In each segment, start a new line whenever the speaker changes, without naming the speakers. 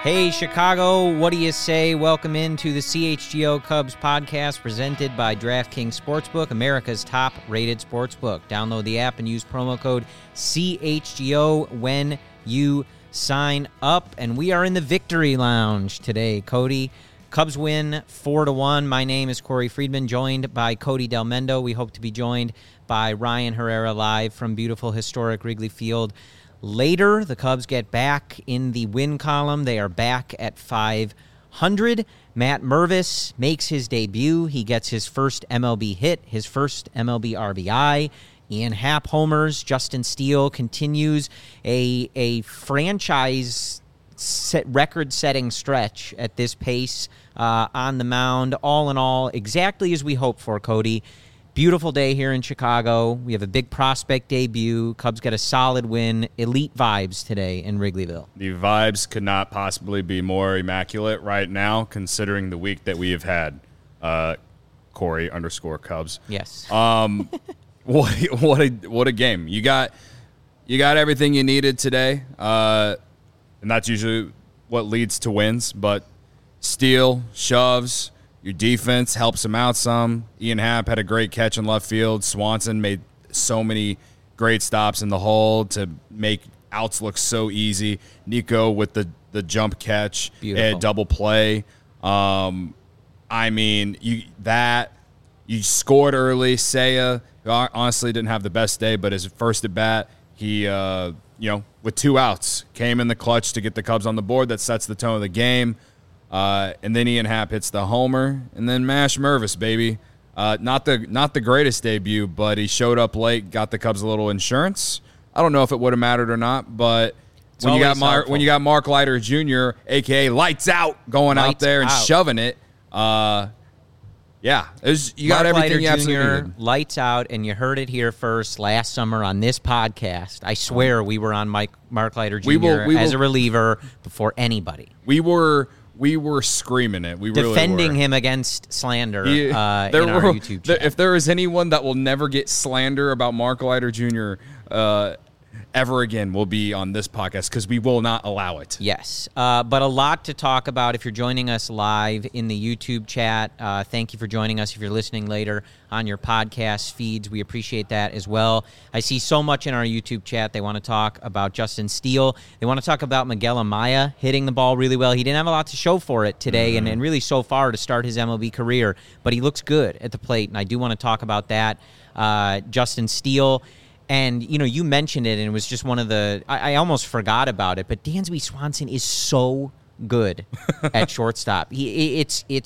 Hey, Chicago, what do you say? Welcome into the CHGO Cubs podcast presented by DraftKings Sportsbook, America's top-rated sportsbook. Download the app and use promo code CHGO when you sign up. And we are in the Victory Lounge today, Cody. Cubs win 4-1. My name is Corey Friedman, joined by Cody Del Mendo. We hope to be joined by Ryan Herrera live from beautiful, historic Wrigley Field. Later, the Cubs get back in the win column. They are back at 500. Matt Mervis makes his debut. He gets his first MLB hit, his first MLB RBI. Ian Happ homers. Justin Steele continues a franchise record-setting stretch at this pace on the mound. All in all, exactly as we hoped for, Cody. Beautiful day here in Chicago. We have a big prospect debut. Cubs got a solid win. Elite vibes today in Wrigleyville.
The vibes could not possibly be more immaculate right now, considering the week that we have had. Corey _Cubs.
Yes.
What a game. You got everything you needed today, and that's usually what leads to wins. But Steele shoves. Your defense helps him out some. Ian Happ had a great catch in left field. Swanson made so many great stops in the hole to make outs look so easy. Nico with the jump catch and double play. I mean, you scored early. Seiya, who honestly didn't have the best day, but his first at bat, he with 2 outs, came in the clutch to get the Cubs on the board. That sets the tone of the game. And then Ian Happ hits the homer, and then Mash Mervis, baby. Not the greatest debut, but he showed up late, got the Cubs a little insurance. I don't know if it would have mattered or not, but when you got Mark Leiter Jr., a.k.a. Lights Out, going out there and shoving it, you got everything you absolutely needed.
Lights Out, and you heard it here first last summer on this podcast. I swear we were on Mark Leiter Jr. as a reliever before anybody.
We were screaming it. We
defending
really were.
Him against slander in our YouTube chat.
If there is anyone that will never get slander about Mark Leiter Jr. Ever again, will be on this podcast because we will not allow it.
Yes, but a lot to talk about if you're joining us live in the YouTube chat. Thank you for joining us. If you're listening later on your podcast feeds, we appreciate that as well. I see so much in our YouTube chat. They want to talk about Justin Steele. They want to talk about Miguel Amaya hitting the ball really well. He didn't have a lot to show for it today and really so far to start his MLB career, but he looks good at the plate, and I do want to talk about that. Justin Steele. And, you mentioned it, and it was just one of the – I almost forgot about it, but Dansby Swanson is so good at shortstop. He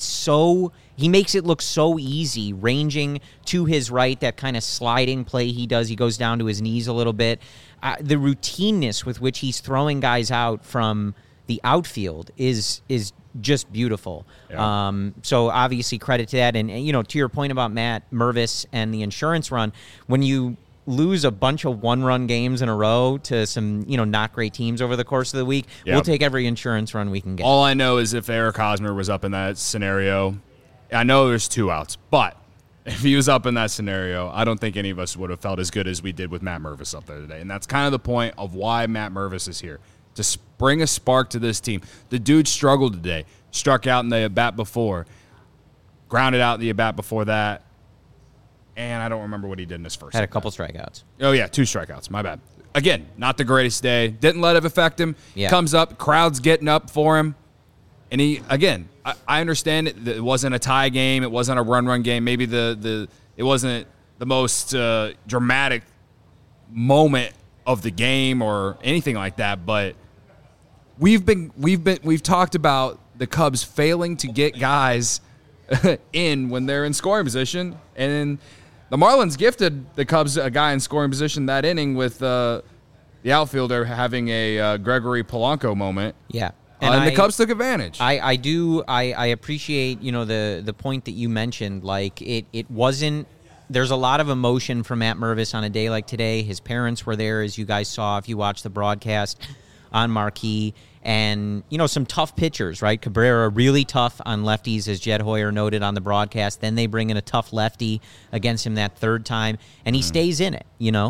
makes it look so easy, ranging to his right, that kind of sliding play he does. He goes down to his knees a little bit. The routineness with which he's throwing guys out from the outfield is just beautiful. Yeah. So obviously credit to that. And, to your point about Matt Mervis and the insurance run, when you – lose a bunch of one-run games in a row to some, not great teams over the course of the week, we'll take every insurance run we can get.
All I know is if Eric Hosmer was up in that scenario, I know there's 2 outs, but if he was up in that scenario, I don't think any of us would have felt as good as we did with Matt Mervis up there today. And that's kind of the point of why Matt Mervis is here, to bring a spark to this team. The dude struggled today, struck out in the at-bat before, grounded out in the at-bat before that. And I don't remember what he did in his first.
Had a couple strikeouts.
Oh, yeah, 2 strikeouts. My bad. Again, not the greatest day. Didn't let it affect him.
Yeah.
Comes up, crowd's getting up for him. And he, again, I understand it wasn't a tie game. It wasn't a run game. Maybe it wasn't the most dramatic moment of the game or anything like that. But we've talked about the Cubs failing to get guys in when they're in scoring position, and the Marlins gifted the Cubs a guy in scoring position that inning with the outfielder having a Gregory Polanco moment.
Yeah.
And the Cubs took advantage.
I appreciate, the point that you mentioned. Like, it wasn't – there's a lot of emotion for Matt Mervis on a day like today. His parents were there, as you guys saw if you watched the broadcast on Marquee. And, some tough pitchers, right? Cabrera really tough on lefties, as Jed Hoyer noted on the broadcast. Then they bring in a tough lefty against him that third time, and he stays in it,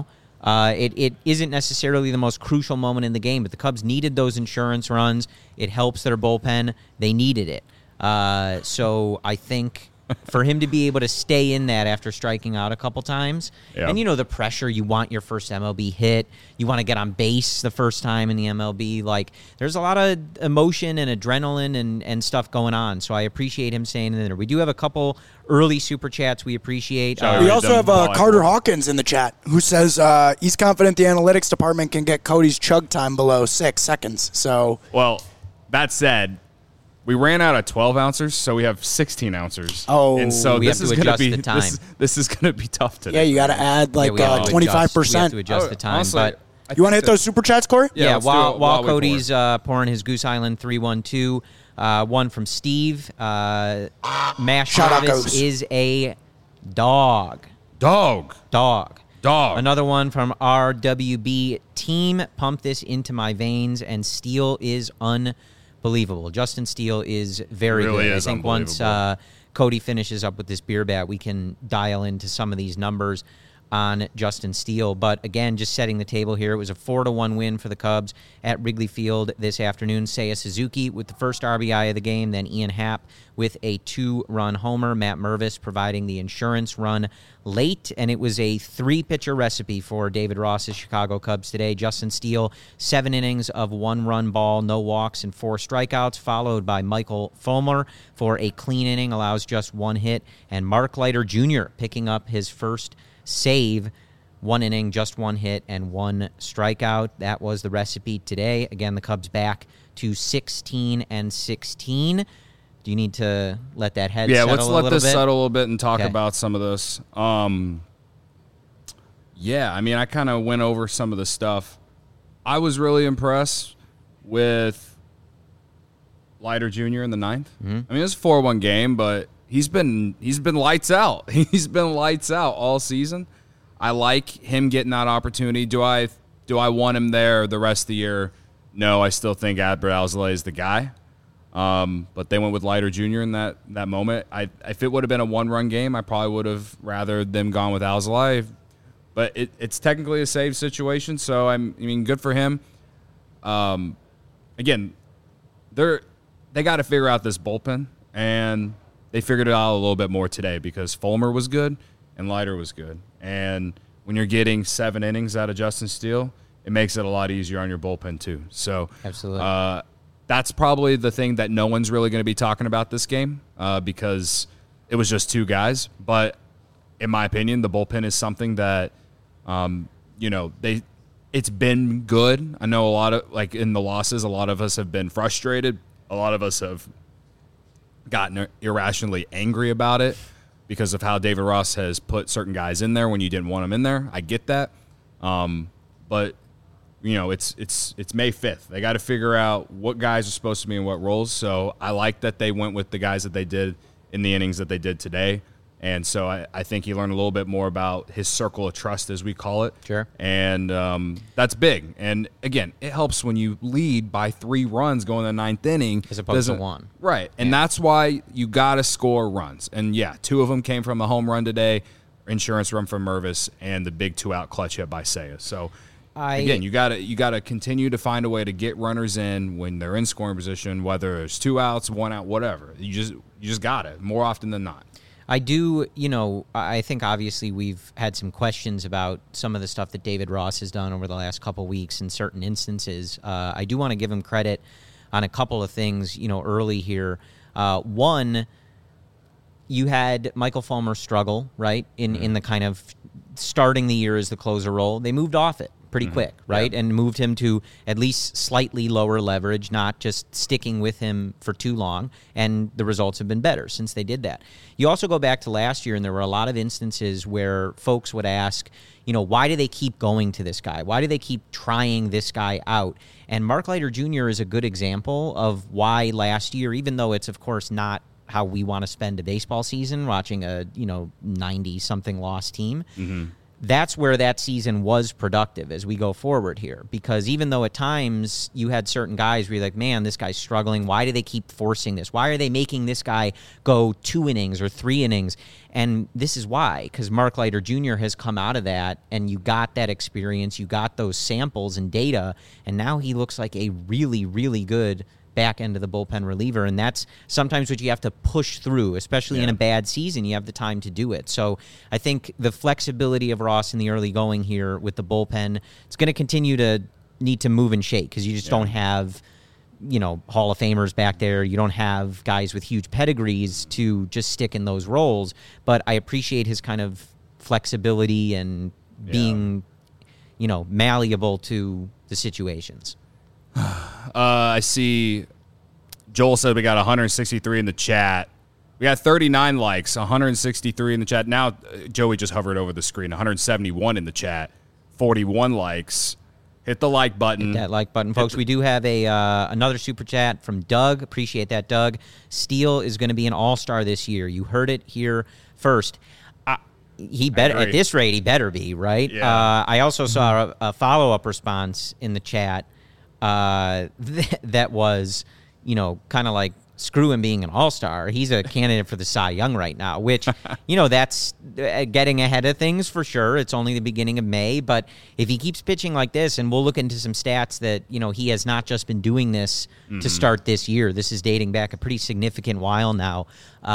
It isn't necessarily the most crucial moment in the game, but the Cubs needed those insurance runs. It helps their bullpen. They needed it. So I think for him to be able to stay in that after striking out a couple times, and the pressure, you want your first MLB hit, you want to get on base the first time in the MLB, like there's a lot of emotion and adrenaline and stuff going on, so I appreciate him staying in there. We do have a couple early super chats we appreciate.
We also have Carter Hawkins in the chat who says he's confident the analytics department can get Cody's chug time below 6 seconds. So,
well, that said, we ran out of 12 ounces, so we have 16 ounces.
Oh,
and so
we
this
have
is
to
going to
adjust
be
the time.
This is going to be tough today.
Yeah, you got to add like 25%.
We have to adjust the time.
Honestly,
but
you want to hit those super chats, Corey?
yeah,
let's
while
do it while we
Cody's pouring his Goose Island 312, one from Steve. Mash
Shout out,
Jarvis
Goose.
is a dog.
Dog.
Another one from RWB Team. Pump this into my veins, and Steele is unbelievable. Justin Steele is very
Really
good.
is
I think once Cody finishes up with this beer bat, we can dial into some of these numbers on Justin Steele. But again, just setting the table here, it was a 4-1 win for the Cubs at Wrigley Field this afternoon. Seiya Suzuki with the first RBI of the game, then Ian Happ with a 2-run homer. Matt Mervis providing the insurance run late, and it was a 3-pitcher recipe for David Ross's Chicago Cubs today. Justin Steele, 7 innings of 1-run ball, no walks, and 4 strikeouts, followed by Michael Fulmer for a clean inning, allows just 1 hit, and Mark Leiter Jr. picking up his first save, 1 inning, just 1 hit, and 1 strikeout. That was the recipe today. Again, the Cubs back to 16-16. Do you need to let that head settle a little bit?
Yeah, let's let this settle a little bit and talk about some of this. Yeah, I mean, I kind of went over some of the stuff. I was really impressed with Leiter Jr. in the 9th. Mm-hmm. I mean, it was a 4-1 game, but he's been lights out. He's been lights out all season. I like him getting that opportunity. Do I want him there the rest of the year? No, I still think Adbert Alzolay is the guy. But they went with Leiter Jr. in that moment. If it would have been a 1-run game, I probably would have rather them gone with Alzolay. But it's technically a save situation, so I mean, good for him. Again, they got to figure out this bullpen, and they figured it out a little bit more today because Fulmer was good and Leiter was good. And when you're getting 7 innings out of Justin Steele, it makes it a lot easier on your bullpen too. So
absolutely.
That's probably the thing that no one's really going to be talking about this game because it was just 2 guys. But in my opinion, the bullpen is something that, it's been good. I know a lot of, like in the losses, a lot of us have been frustrated. A lot of us have gotten irrationally angry about it because of how David Ross has put certain guys in there when you didn't want them in there. I get that. But it's May 5th. They got to figure out what guys are supposed to be in what roles. So I like that they went with the guys that they did in the innings that they did today. And so I think he learned a little bit more about his circle of trust, as we call it.
Sure.
And that's big. And, again, it helps when you lead by 3 runs going in the 9th inning.
As opposed to 1.
Right. And that's why you got to score runs. And, 2 of them came from a home run today, insurance run from Mervis, and the big 2-out clutch hit by Seiya. So, again, you gotta continue to find a way to get runners in when they're in scoring position, whether it's 2 outs, 1 out, whatever. You just got it more often than not.
I do, I think obviously we've had some questions about some of the stuff that David Ross has done over the last couple weeks in certain instances. I do want to give him credit on a couple of things, early here. One, you had Michael Fulmer struggle, right, in the kind of starting the year as the closer role. They moved off it pretty quick, right, and moved him to at least slightly lower leverage, not just sticking with him for too long, and the results have been better since they did that. You also go back to last year, and there were a lot of instances where folks would ask, why do they keep going to this guy? Why do they keep trying this guy out? And Mark Leiter Jr. is a good example of why last year, even though it's, of course, not how we want to spend a baseball season, watching a 90-something loss team, that's where that season was productive as we go forward here. Because even though at times you had certain guys where you're like, man, this guy's struggling. Why do they keep forcing this? Why are they making this guy go 2 innings or 3 innings? And this is why, because Mark Leiter Jr. has come out of that, and you got that experience, you got those samples and data, and now he looks like a really, really good back end of the bullpen reliever, and that's sometimes what you have to push through, especially in a bad season. You have the time to do it. So I think the flexibility of Ross in the early going here with the bullpen, it's going to continue to need to move and shake because you just don't have, Hall of Famers back there. You don't have guys with huge pedigrees to just stick in those roles. But I appreciate his kind of flexibility and being, malleable to the situations.
I see Joel said we got 163 in the chat. We got 39 likes, 163 in the chat. Now, Joey just hovered over the screen. 171 in the chat, 41 likes. Hit the like button.
Hit that like button, folks. We do have another super chat from Doug. Appreciate that, Doug. Steele is going to be an all-star this year. You heard it here first. He better at this rate. He better be, right?
Yeah.
I also saw a follow-up response in the chat. That was, kind of like, screw him being an all-star. He's a candidate for the Cy Young right now, which, that's getting ahead of things for sure. It's only the beginning of May, but if he keeps pitching like this, and we'll look into some stats that, he has not just been doing this to start this year. This is dating back a pretty significant while now.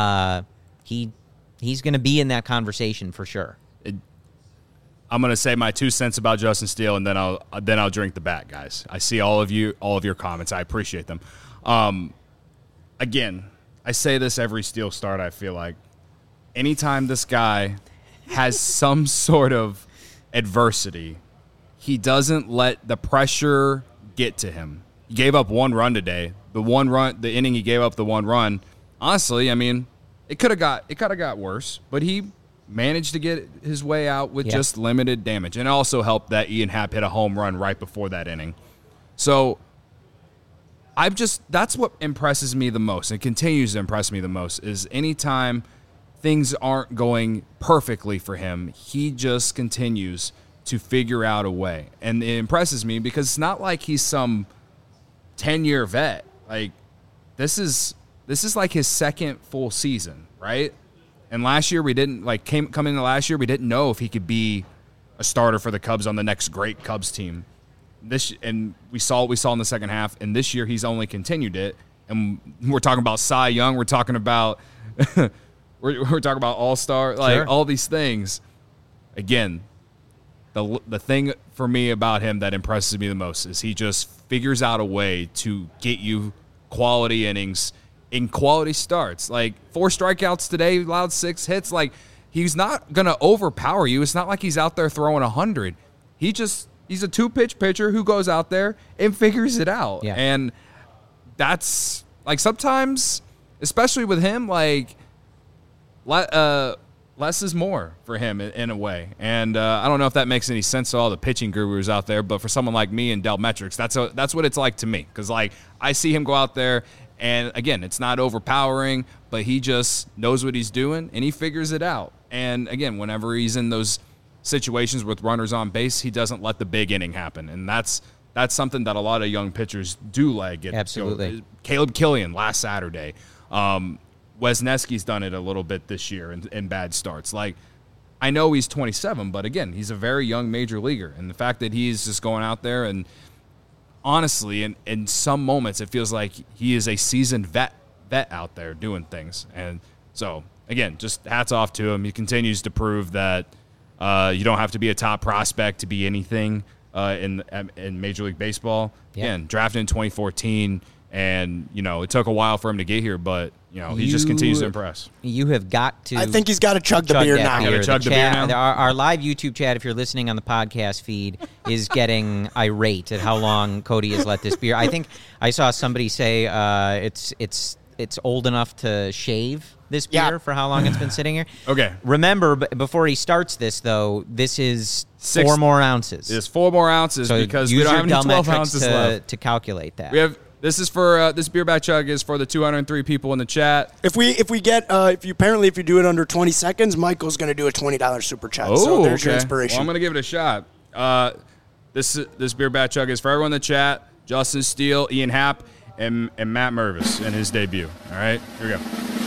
He's going to be in that conversation for sure.
I'm going to say my 2 cents about Justin Steele, and then I'll drink the bat, guys. I see all of your comments. I appreciate them. Again, I say this every Steele start, I feel like. Anytime this guy has some sort of adversity, he doesn't let the pressure get to him. He gave up 1 run today. The inning he gave up the 1 run, honestly, I mean, it could have got worse, but he managed to get his way out with just limited damage. And it also helped that Ian Happ hit a home run right before that inning. So that's what impresses me the most, and continues to impress me the most, is anytime things aren't going perfectly for him, he just continues to figure out a way. And it impresses me because it's not like he's some 10-year vet. Like, this is like his second full season, right? And last year we didn't come into last year we didn't know if he could be a starter for the Cubs on the next great Cubs team. And we saw what we saw in the second half, and this year he's only continued it. And we're talking about Cy Young, we're talking about we're talking about All-Star, all these things. Again, the thing for me about him that impresses me the most is he just figures out a way to get you quality innings in quality starts. Like 4 strikeouts today, allowed 6 hits. Like, he's not going to overpower you. It's not like he's out there throwing 100. He's a 2-pitch pitcher who goes out there and figures it out.
Yeah.
And that's, like, sometimes, especially with him, like, less is more for him in a way. And I don't know if that makes any sense to all the pitching gurus out there, but for someone like me and Del Metrics, that's what it's like to me. Because, like, I see him go out there, and, again, it's not overpowering, but he just knows what he's doing, and he figures it out. And, again, whenever he's in those situations with runners on base, he doesn't let the big inning happen. And that's something that a lot of young pitchers do like.
Absolutely.
Caleb Killian last Saturday. Wesneski's done it a little bit this year in bad starts. Like, I know he's 27, but, again, he's a very young major leaguer. And the fact that he's just going out there and, honestly, in some moments, it feels like he is a seasoned vet out there doing things. And so, again, just hats off to him. He continues to prove that you don't have to be a top prospect to be anything in Major League Baseball.
Yeah.
Again, drafted in 2014, and, it took a while for him to get here, but, he just continues to impress.
You have got to.
I think he's got to chug the beer now.
Chug the beer now?
Our live YouTube chat, if you're listening on the podcast feed, is getting irate at how long Cody has let this beer. I think I saw somebody say it's old enough to shave this beer for how long it's been sitting here.
Okay.
Remember, before he starts this, though, this is 4 more ounces.
It's 4 more ounces,
so
because we don't have any 12 ounces left
to calculate that.
We have This is for this beer back chug is for the 203 people in the chat.
If you do it under 20 seconds, Michael's going to do a $20 super chat. So there's your inspiration.
Well, I'm going to give it a shot. This beer back chug is for everyone in the chat: Justin Steele, Ian Happ, and Matt Mervis in his debut. All right, here we go.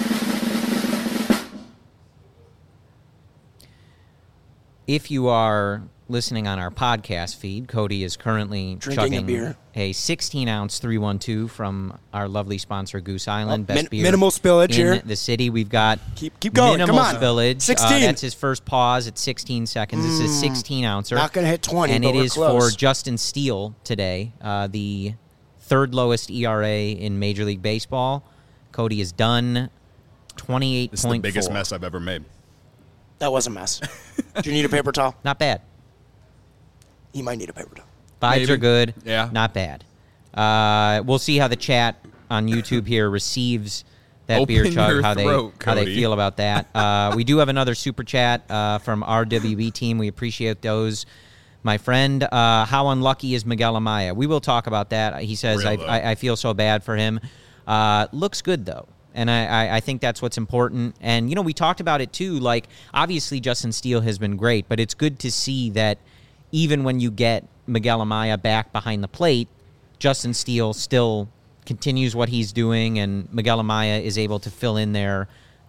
If you are listening on our podcast feed, Cody is currently
drinking
chugging
a beer.
A 16-ounce 312 from our lovely sponsor, Goose Island. Best beer
minimal spillage
in
here.
the city. We've got
keep going.
Minimal
Come on.
spillage.
16.
That's his first pause at 16 seconds. This is a 16-ouncer.
Not going to hit 20,
and
but
it
we're
is
close.
for Justin Steele today, the third lowest ERA in Major League Baseball. Cody has done 28.4.
This is the biggest mess I've ever made.
That was a mess. Do you need a paper towel?
Not bad.
You might need a paper towel.
Vibes
Maybe.
are good.
Yeah.
Not bad. We'll see how the chat on YouTube here receives that
Open
beer chug,
your
how
throat,
they
Cody.
feel about that. We do have another super chat from our WB team. We appreciate those. My friend, how unlucky is Miguel Amaya? We will talk about that. He says, I feel so bad for him. Looks good, though. And I think that's what's important. And, you know, we talked about it, too. Like, obviously, Justin Steele has been great, but it's good to see that even when you get Miguel Amaya back behind the plate, Justin Steele still continues what he's doing, and Miguel Amaya is able to fill in there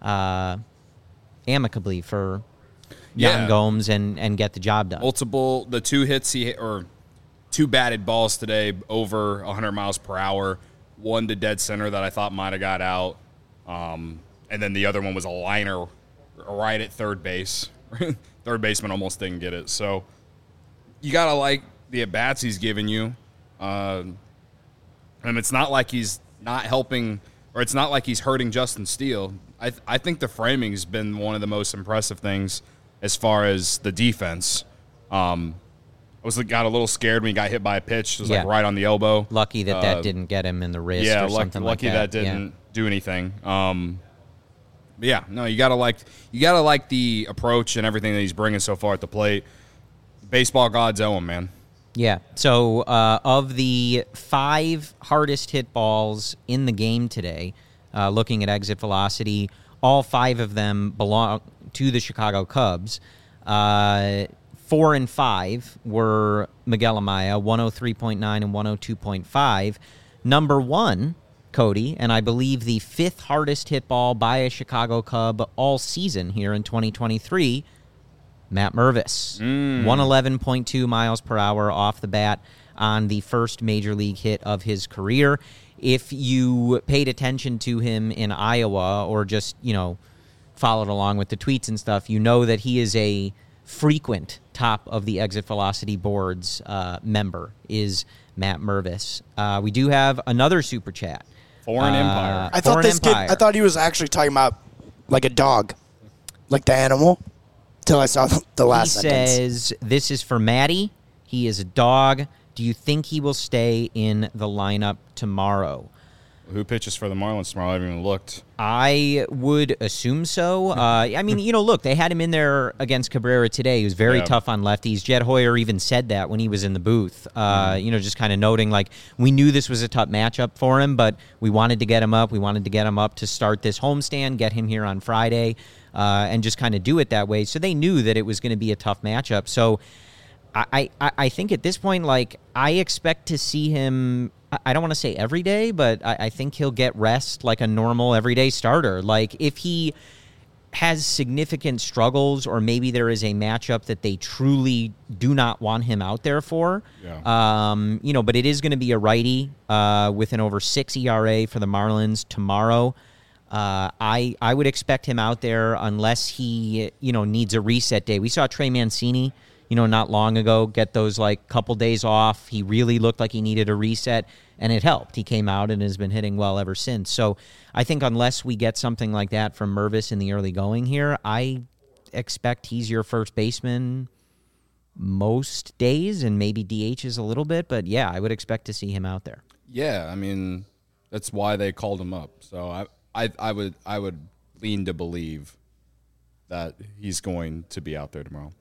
amicably for Yan Gomes and get the job done.
The 2 hits he hit, or 2 batted balls today over 100 miles per hour. One to dead center that I thought might have got out. And then the other one was a liner right at third base. Third baseman almost didn't get it. So you got to like the at-bats he's giving you. And it's not like he's not helping, or it's not like he's hurting Justin Steele. I think the framing's been one of the most impressive things as far as the defense. I got a little scared when he got hit by a pitch. It was like right on the elbow.
Lucky that didn't get him in the wrist or something like that.
Lucky that didn't do anything. But yeah, no, you gotta like the approach and everything that he's bringing so far at the plate. Baseball gods owe him, man.
Yeah. So of the 5 hardest hit balls in the game today, looking at exit velocity, all 5 of them belong to the Chicago Cubs. 4 and 5 were Miguel Amaya, 103.9 and 102.5. Number 1, Cody, and I believe the 5th hardest hit ball by a Chicago Cub all season here in 2023, Matt Mervis. 111.2 miles per hour off the bat on the first major league hit of his career. If you paid attention to him in Iowa or just, followed along with the tweets and stuff, you know that he is a frequent top of the exit velocity boards member is Matt Mervis. We do have another super chat.
Foreign Empire.
I thought he was actually talking about like a dog, like the animal, till I saw the last sentence.
He says, this is for Matty. He is a dog. Do you think he will stay in the lineup tomorrow?
Who pitches for the Marlins tomorrow? I haven't even looked.
I would assume so. Look, they had him in there against Cabrera today. He was very tough on lefties. Jed Hoyer even said that when he was in the booth, just kind of noting, like, we knew this was a tough matchup for him, but we wanted to get him up. We wanted to get him up to start this homestand, get him here on Friday, and just kind of do it that way. So they knew that it was going to be a tough matchup. So I think at this point, like, I expect to see him, I don't want to say every day, but I think he'll get rest like a normal everyday starter. Like, if he has significant struggles, or maybe there is a matchup that they truly do not want him out there for, but it is going to be a righty with an over 6 ERA for the Marlins tomorrow. I would expect him out there unless he, needs a reset day. We saw Trey Mancini, not long ago, get those couple days off. He really looked like he needed a reset, and it helped. He came out and has been hitting well ever since. So I think unless we get something like that from Mervis in the early going here, I expect he's your first baseman most days, and maybe DHs a little bit. But yeah, I would expect to see him out there.
Yeah, I mean, that's why they called him up. So I would lean to believe that he's going to be out there tomorrow.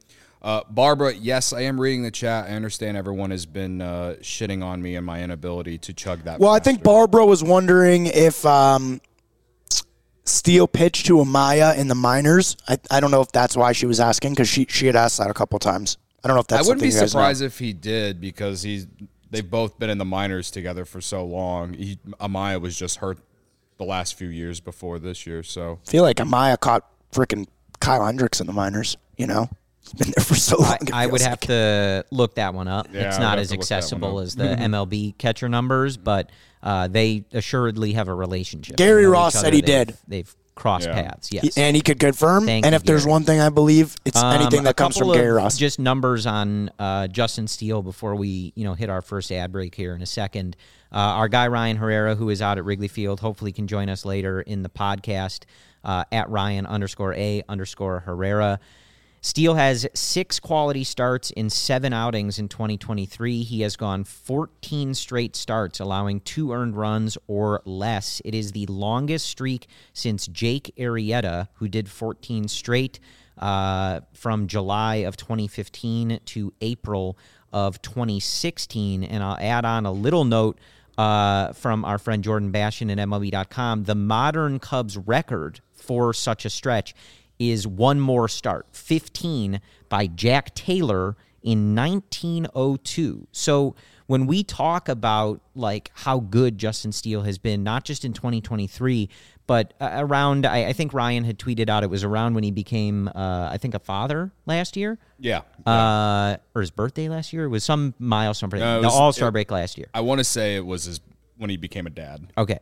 Barbara, yes, I am reading the chat. I understand everyone has been shitting on me and my inability to chug that.
Well,
faster.
I think Barbara was wondering if Steele pitched to Amaya in the minors. I don't know if that's why she was asking, because she had asked that a couple times. I don't know if that's.
I wouldn't be
something you guys
surprised
know.
if he did, because they've both been in the minors together for so long. Amaya was just hurt the last few years before this year, so
I feel like Amaya caught freaking Kyle Hendricks in the minors. He's been there for so long.
I would have to look that one up.
Yeah,
it's
I
not
would
as
have to look that
accessible
one up.
as the MLB catcher numbers, but they assuredly have a relationship.
Gary
They know
Ross
each
said
other.
he did.
They've crossed
Yeah.
paths, yes.
And he could confirm.
Thank
And
you,
if there's
Gary.
one thing I believe, it's anything that comes from
couple
Gary
of
Ross.
Just numbers on Justin Steele before we hit our first ad break here in a second. Our guy Ryan Herrera, who is out at Wrigley Field, hopefully can join us later in the podcast at Ryan_A_Herrera. Steele has 6 quality starts in 7 outings in 2023. He has gone 14 straight starts, allowing 2 earned runs or less. It is the longest streak since Jake Arrieta, who did 14 straight from July of 2015 to April of 2016. And I'll add on a little note from our friend Jordan Bastion at MLB.com. The modern Cubs record for such a stretch is one more start, 15 by Jack Taylor in 1902. So when we talk about like how good Justin Steele has been, not just in 2023, but around, I think Ryan had tweeted out, it was around when he became, I think, a father last year.
yeah.
Or his birthday last year. It was some milestone.
No, it
the
was-
All-Star break last year.
I want to say it was when he became a dad.
Okay.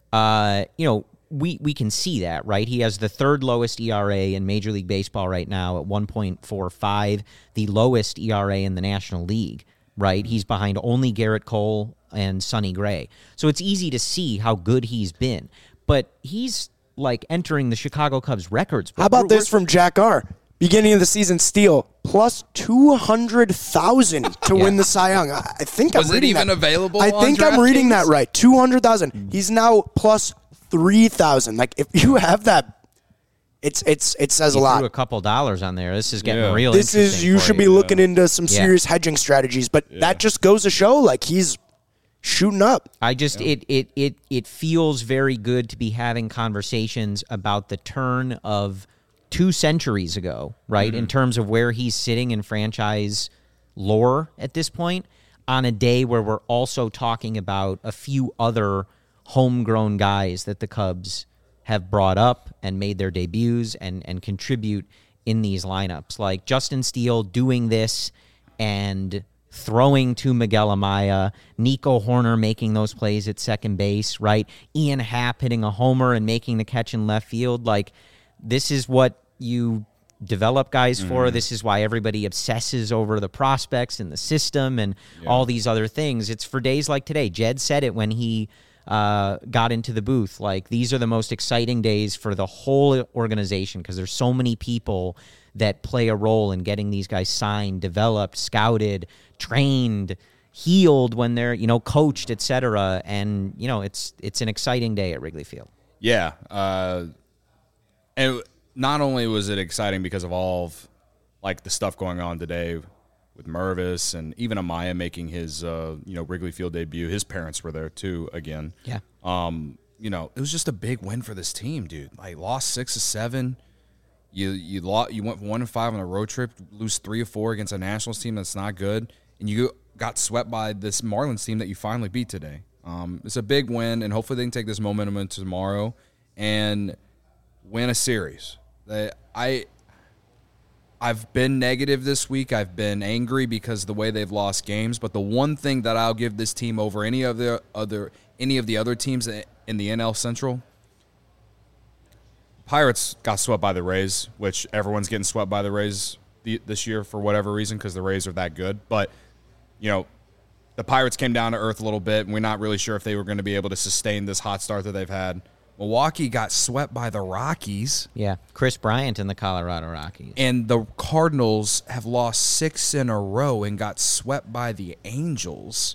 We can see that, right? He has the 3rd lowest ERA in Major League Baseball right now at 1.45, the lowest ERA in the National League, right? He's behind only Garrett Cole and Sonny Gray. So it's easy to see how good he's been. But he's like entering the Chicago Cubs records.
How about this from Jack R? Beginning of the season, Steele plus 200,000 to win the Cy Young. I think
Was
I'm
it
reading
even
that.
available
I
on
think I'm reading that
DraftKings?
right. 200,000. He's now plus 3,000. Like if you have that, it says a
Threw
lot.
a couple dollars on there. This is getting
Yeah.
real
This is
interesting
you
for
should be looking into some
Yeah.
serious hedging strategies, but that just goes to show like he's shooting up.
I just it feels very good to be having conversations about the turn of 2 centuries ago, right? In terms of where he's sitting in franchise lore at this point, on a day where we're also talking about a few other homegrown guys that the Cubs have brought up and made their debuts and contribute in these lineups. Like Justin Steele doing this and throwing to Miguel Amaya, Nico Horner making those plays at second base, right? Ian Happ hitting a homer and making the catch in left field. Like, this is what you develop guys for. This is why everybody obsesses over the prospects and the system and all these other things. It's for days like today. Jed said it when he got into the booth. Like, these are the most exciting days for the whole organization because there's so many people that play a role in getting these guys signed, developed, scouted, trained, healed when they're, coached, etc. And, it's an exciting day at Wrigley Field.
Yeah. And not only was it exciting because of all of like the stuff going on today with Mervis and even Amaya making his Wrigley Field debut. His parents were there too again.
Yeah.
It was just a big win for this team, dude. Like lost 6 of 7. You went 1-5 on a road trip, lose 3 of 4 against a Nationals team that's not good, and you got swept by this Marlins team that you finally beat today. It's a big win, and hopefully they can take this momentum into tomorrow and win a series. I've been negative this week. I've been angry because of the way they've lost games. But the one thing that I'll give this team over any of the other teams in the NL Central, Pirates got swept by the Rays, which everyone's getting swept by the Rays this year for whatever reason because the Rays are that good. But the Pirates came down to earth a little bit, and we're not really sure if they were going to be able to sustain this hot start that they've had. Milwaukee got swept by the Rockies.
Yeah, Chris Bryant and the Colorado Rockies.
And the Cardinals have lost 6 in a row and got swept by the Angels.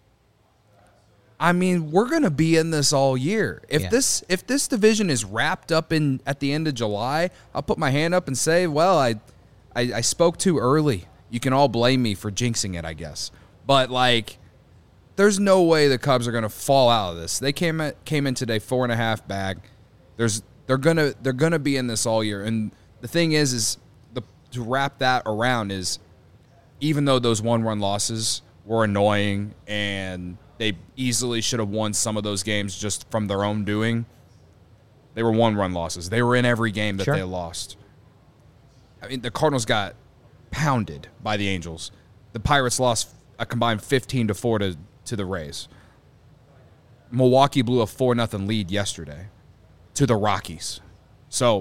I mean, we're going to be in this all year. If this division is wrapped up at the end of July, I'll put my hand up and say, well, I I spoke too early. You can all blame me for jinxing it, I guess. But, like, there's no way the Cubs are going to fall out of this. They came in today 4.5 bag. They're gonna be in this all year. And the thing is to wrap that around is, even though those 1-run losses were annoying and they easily should have won some of those games just from their own doing, they were 1-run losses. They were in every game that they lost. I mean, the Cardinals got pounded by the Angels. The Pirates lost a combined 15-4 to the Rays. Milwaukee blew a 4-0 lead yesterday to the Rockies. So,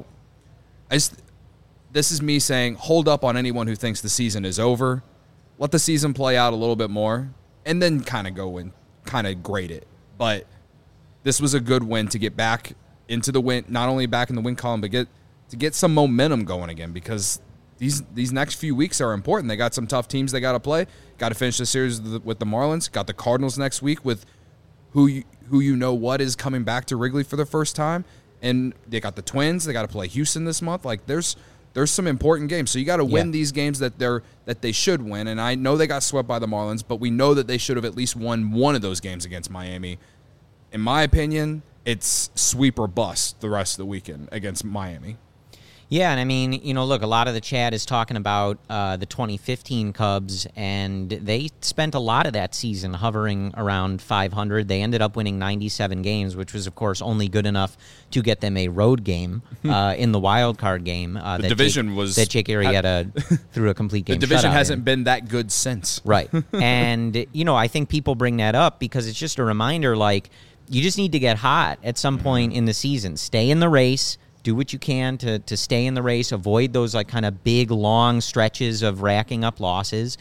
this is me saying, hold up on anyone who thinks the season is over. Let the season play out a little bit more, and then kind of go and kind of grade it. But this was a good win to get back into the win, not only back in the win column, but to get some momentum going again, because these next few weeks are important. They got some tough teams they got to play. Got to finish the series with the Marlins. Got the Cardinals next week with who you know what is coming back to Wrigley for the first time. And they got the Twins. They got to play Houston this month. Like, there's some important games. So you got to win these games that they should win. And I know they got swept by the Marlins, but we know that they should have at least won one of those games against Miami. In my opinion, it's sweep or bust the rest of the weekend against Miami.
Yeah, and I mean, look, a lot of the chat is talking about the 2015 Cubs, and they spent a lot of that season hovering around 500. They ended up winning 97 games, which was, of course, only good enough to get them a road game in the wild card game.
The division
that Jake Arrieta threw a complete game.
The division hasn't been that good since.
Right. And, I think people bring that up because it's just a reminder, like, you just need to get hot at some point in the season. Stay in the race. Do what you can to stay in the race, avoid those like kind of big, long stretches of racking up losses,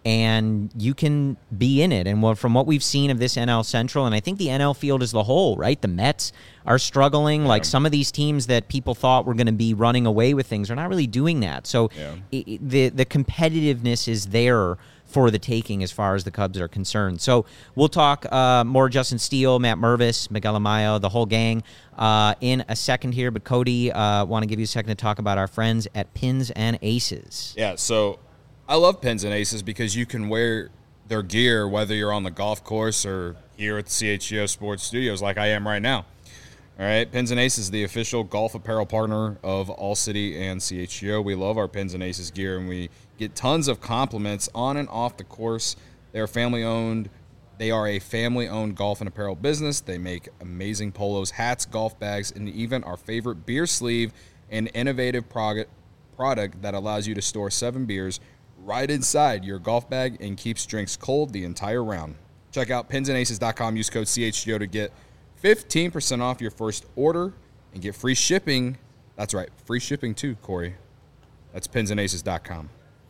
and you can be in it. And from what we've seen of this NL Central, and I think the NL field as the whole, right? The Mets are struggling. Like some of these teams that people thought were going to be running away with things are not really doing that. So the competitiveness is there for the taking as far as the Cubs are concerned. So we'll talk more Justin Steele, Matt Mervis, Miguel Amaya, the whole gang in a second here. But Cody, want to give you a second to talk about our friends at Pins and Aces.
Yeah, so I love Pins and Aces because you can wear their gear whether you're on the golf course or here at the CHGO Sports Studios like I am right now. All right, Pins and Aces, the official golf apparel partner of All City and CHGO. We love our Pins and Aces gear, and we get tons of compliments on and off the course. They're family-owned. They are a family-owned golf and apparel business. They make amazing polos, hats, golf bags, and even our favorite beer sleeve, an innovative product that allows you to store 7 beers right inside your golf bag and keeps drinks cold the entire round. Check out pinsandaces.com. Use code CHGO to get 15% off your first order and get free shipping. That's right, free shipping too, Corey. That's pinsandaces.com.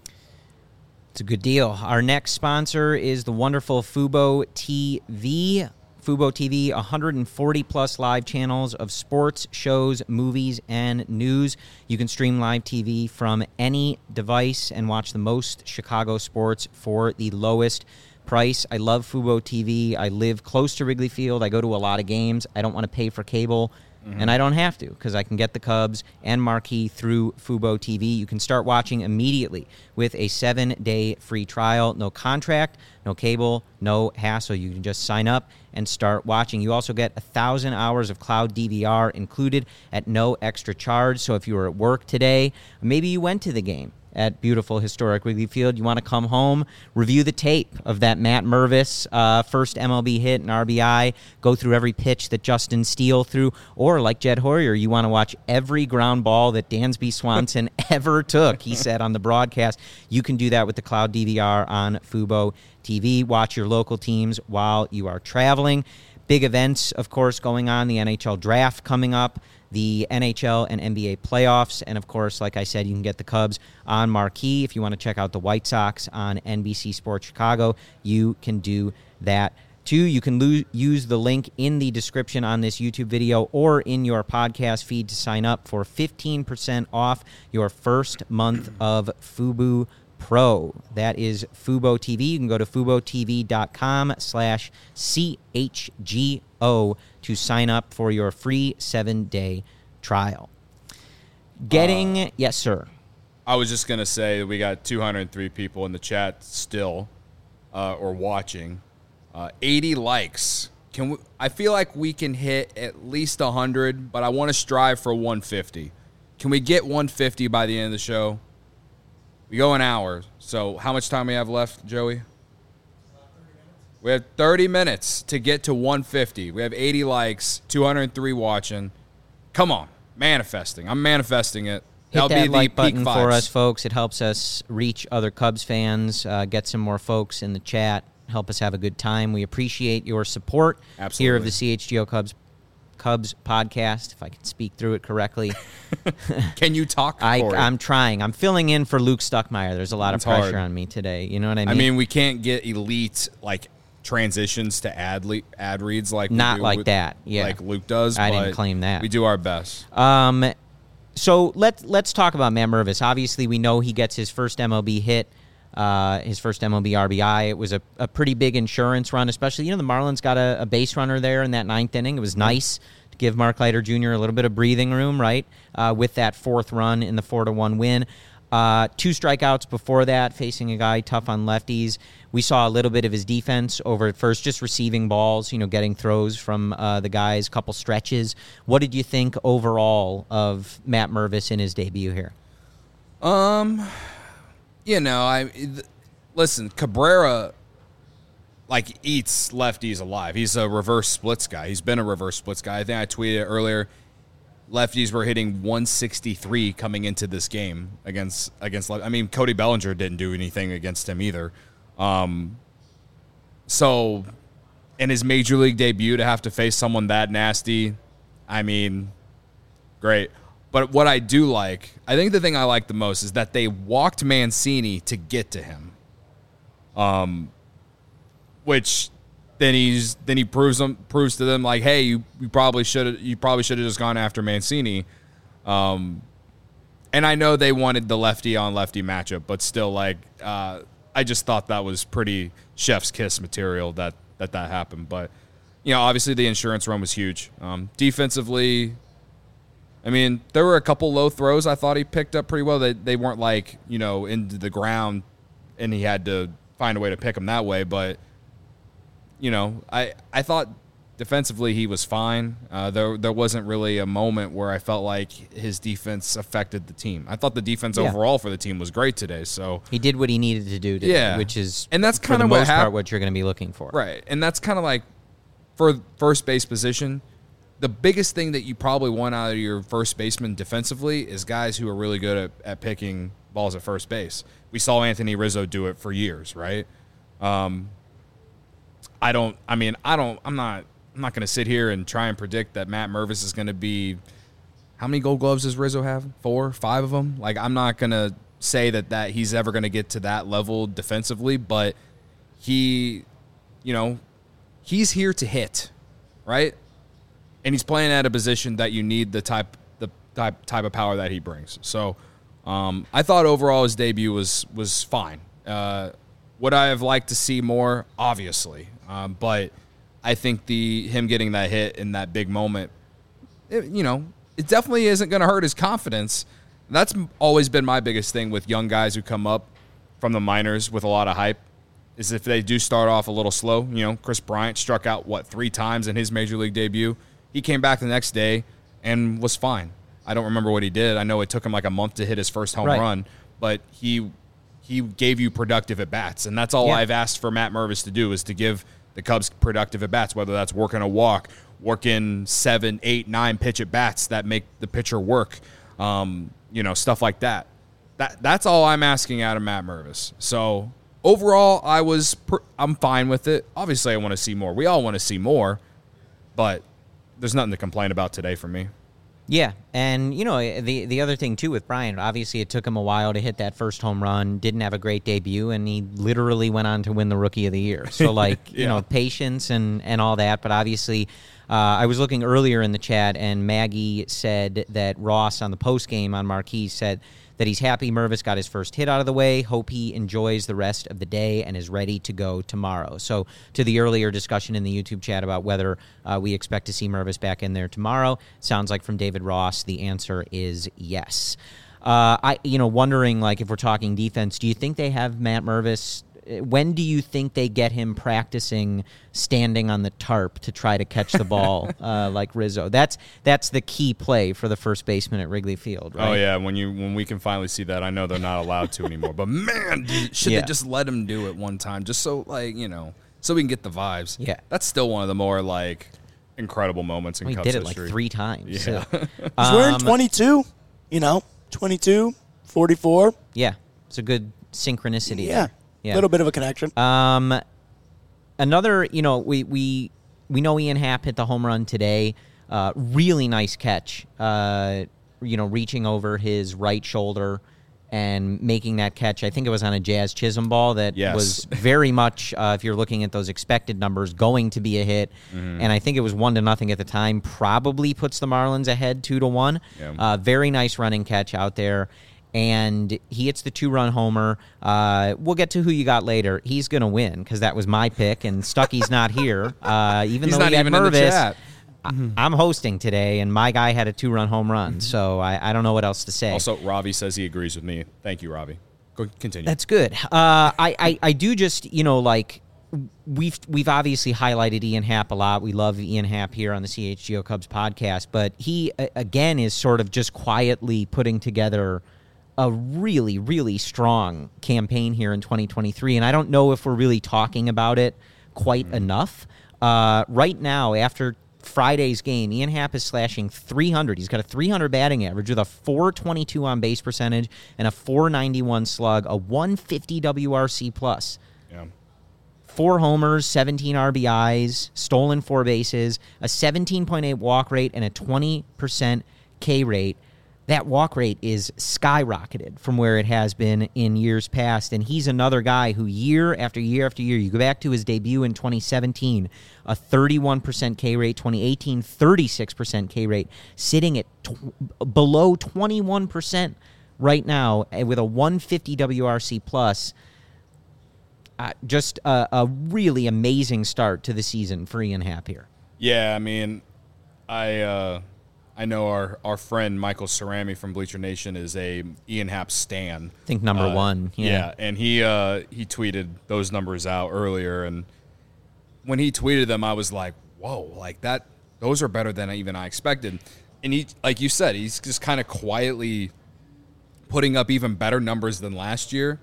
It's a good deal. Our next sponsor is the wonderful Fubo TV. Fubo TV, 140-plus live channels of sports, shows, movies, and news. You can stream live TV from any device and watch the most Chicago sports for the lowest price. I love Fubo TV. I live close to Wrigley Field. I go to a lot of games. I don't want to pay for cable, and I don't have to because I can get the Cubs and Marquee through Fubo TV. You can start watching immediately with a 7-day free trial. No contract, no cable, no hassle. You can just sign up and start watching. You also get 1,000 hours of cloud DVR included at no extra charge. So if you were at work today, maybe you went to the game at beautiful historic Wrigley Field, you want to come home, review the tape of that Matt Mervis first MLB hit and RBI, go through every pitch that Justin Steele threw, or like Jed Hoyer, you want to watch every ground ball that Dansby Swanson ever took, he said on the broadcast. You can do that with the cloud DVR on Fubo TV. Watch your local teams while you are traveling. Big events, of course, going on, the NHL draft coming up, the NHL and NBA playoffs, and of course, like I said, you can get the Cubs on Marquee. If you want to check out the White Sox on NBC Sports Chicago, you can do that too. You can use the link in the description on this YouTube video or in your podcast feed to sign up for 15% off your first month of Fubo Pro. That is Fubo TV. You can go to FuboTV.com/CHGO to sign up for your free 7-day trial. Yes, sir.
I was just going to say that we got 203 people in the chat still or watching. 80 likes. I feel like we can hit at least 100, but I want to strive for 150. Can we get 150 by the end of the show? We go an hour. So how much time we have left, Joey? We have 30 minutes to get to 150. We have 80 likes, 203 watching. Come on. Manifesting. I'm manifesting it.
Hit that like button for us, folks. It helps us reach other Cubs fans, get some more folks in the chat, help us have a good time. We appreciate your support here of the CHGO Cubs podcast, if I can speak through it correctly.
Can you talk?
I'm trying. I'm filling in for Luke Stuckmeyer. There's a lot of pressure on me today. You know what I mean?
I mean, we can't get elite transitions to ad reads like
that. Yeah,
like Luke does.
I didn't claim that.
We do our best.
So let's talk about Matt Mervis. Obviously, we know he gets his first MLB hit, his first MLB RBI. It was a pretty big insurance run, especially, the Marlins got a base runner there in that ninth inning. It was nice to give Mark Leiter Jr. a little bit of breathing room, right, with that fourth run in the 4-1 win. 2 strikeouts before that, facing a guy tough on lefties. We saw a little bit of his defense over at first, just receiving balls, getting throws from the guys, couple stretches. What did you think overall of Matt Mervis in his debut here?
Listen, Cabrera eats lefties alive. He's a reverse splits guy. He's been a reverse splits guy. I think I tweeted earlier. Lefties were hitting 163 coming into this game against. I mean, Cody Bellinger didn't do anything against him either. So, in his major league debut, to have to face someone that nasty, I mean, great. But what I do like, I think the thing I like the most is that they walked Mancini to get to him. Which then he proves to them hey, you probably should have just gone after Mancini. And I know they wanted the lefty on lefty matchup, but still I just thought that was pretty chef's kiss material that happened. But obviously the insurance run was huge. Defensively, I mean, there were a couple low throws I thought he picked up pretty well. They weren't into the ground and he had to find a way to pick them that way, but I thought defensively he was fine. There wasn't really a moment where I felt like his defense affected the team. I thought the defense overall for the team was great today. So
he did what he needed to do today, which is
and that's kind
of
what
what you're going to be looking for.
Right. And that's kind of for first base position, the biggest thing that you probably want out of your first baseman defensively is guys who are really good at picking balls at first base. We saw Anthony Rizzo do it for years, right? I'm not going to sit here and try and predict that Matt Mervis is going to be – how many Gold Gloves does Rizzo have? 4, 5 of them? I'm not going to say that he's ever going to get to that level defensively, but he's here to hit, right? And he's playing at a position that you need the type of power that he brings. So I thought overall his debut was fine. Would I have liked to see more? Obviously. But I think him getting that hit in that big moment, it definitely isn't going to hurt his confidence. That's always been my biggest thing with young guys who come up from the minors with a lot of hype, is if they do start off a little slow. Chris Bryant struck out, 3 times in his major league debut. He came back the next day and was fine. I don't remember what he did. I know it took him a month to hit his first home run, but he gave you productive at-bats, and that's all I've asked for Matt Mervis to do, is to give the Cubs productive at-bats, whether that's working a walk, working 7, 8, 9 pitch at-bats that make the pitcher work, stuff like that. That's all I'm asking out of Matt Mervis. So overall, I'm fine with it. Obviously, I want to see more. We all want to see more, but there's nothing to complain about today for me.
Yeah, and the other thing too with Bryant, obviously it took him a while to hit that first home run, didn't have a great debut, and he literally went on to win the Rookie of the Year. So patience and all that, but obviously I was looking earlier in the chat, and Maggie said that Ross on the post game on Marquee said that he's happy Mervis got his first hit out of the way, hope he enjoys the rest of the day and is ready to go tomorrow. So to the earlier discussion in the YouTube chat about whether we expect to see Mervis back in there tomorrow, sounds like from David Ross the answer is yes. Wondering, like, if we're talking defense, do you think they have Matt Mervis? When do you think they get him practicing standing on the tarp to try to catch the ball like Rizzo? That's the key play for the first baseman at Wrigley Field, right?
Oh, yeah, when we can finally see that. I know they're not allowed to anymore. But, man, should they just let him do it one time just so, like, so we can get the vibes?
Yeah.
That's still one of the more, like, incredible moments in Cubs history.
He did it like 3 times.
Yeah.
He's wearing 22, 22, 44.
Yeah, it's a good synchronicity.
Yeah.
Yeah.
A little bit of a connection.
Another, we know Ian Happ hit the home run today. Really nice catch. Reaching over his right shoulder and making that catch. I think it was on a Jazz Chisholm ball that was very much, if you're looking at those expected numbers, going to be a hit. Mm-hmm. And I think it was 1-0 at the time. Probably puts the Marlins ahead 2-1. Yeah. Very nice running catch out there. And he hits the 2-run homer. We'll get to who you got later. He's going to win because that was my pick, and Stucky's not here. Even
He's
though
not
he had
even in the
Mervis,
chat.
I'm hosting today, and my guy had a 2-run home run, so I don't know what else to say.
Also, Ravi says he agrees with me. Thank you, Ravi. Go continue.
That's good. I do just, we've obviously highlighted Ian Happ a lot. We love Ian Happ here on the CHGO Cubs podcast, but he, again, is sort of just quietly putting together a really, really strong campaign here in 2023, and I don't know if we're really talking about it quite enough. Right now, after Friday's game, Ian Happ is slashing 300. He's got a 300 batting average with a 422 on base percentage and a 491 slug, a 150 WRC plus.
Yeah.
4 homers, 17 RBIs, stolen 4 bases, a 17.8 walk rate, and a 20% K rate. That walk rate is skyrocketed from where it has been in years past, and he's another guy who year after year after year, you go back to his debut in 2017, a 31% K rate, 2018, 36% K rate, sitting at below 21% right now with a 150 WRC plus. Just a really amazing start to the season for Ian Happ here.
Yeah, I mean, I know our friend Michael Cerami from Bleacher Nation is a Ian Happ stan.
I think number 1.
Yeah, and he tweeted those numbers out earlier, and when he tweeted them, I was like, whoa, like that. Those are better than even I expected. And he, like you said, he's just kind of quietly putting up even better numbers than last year.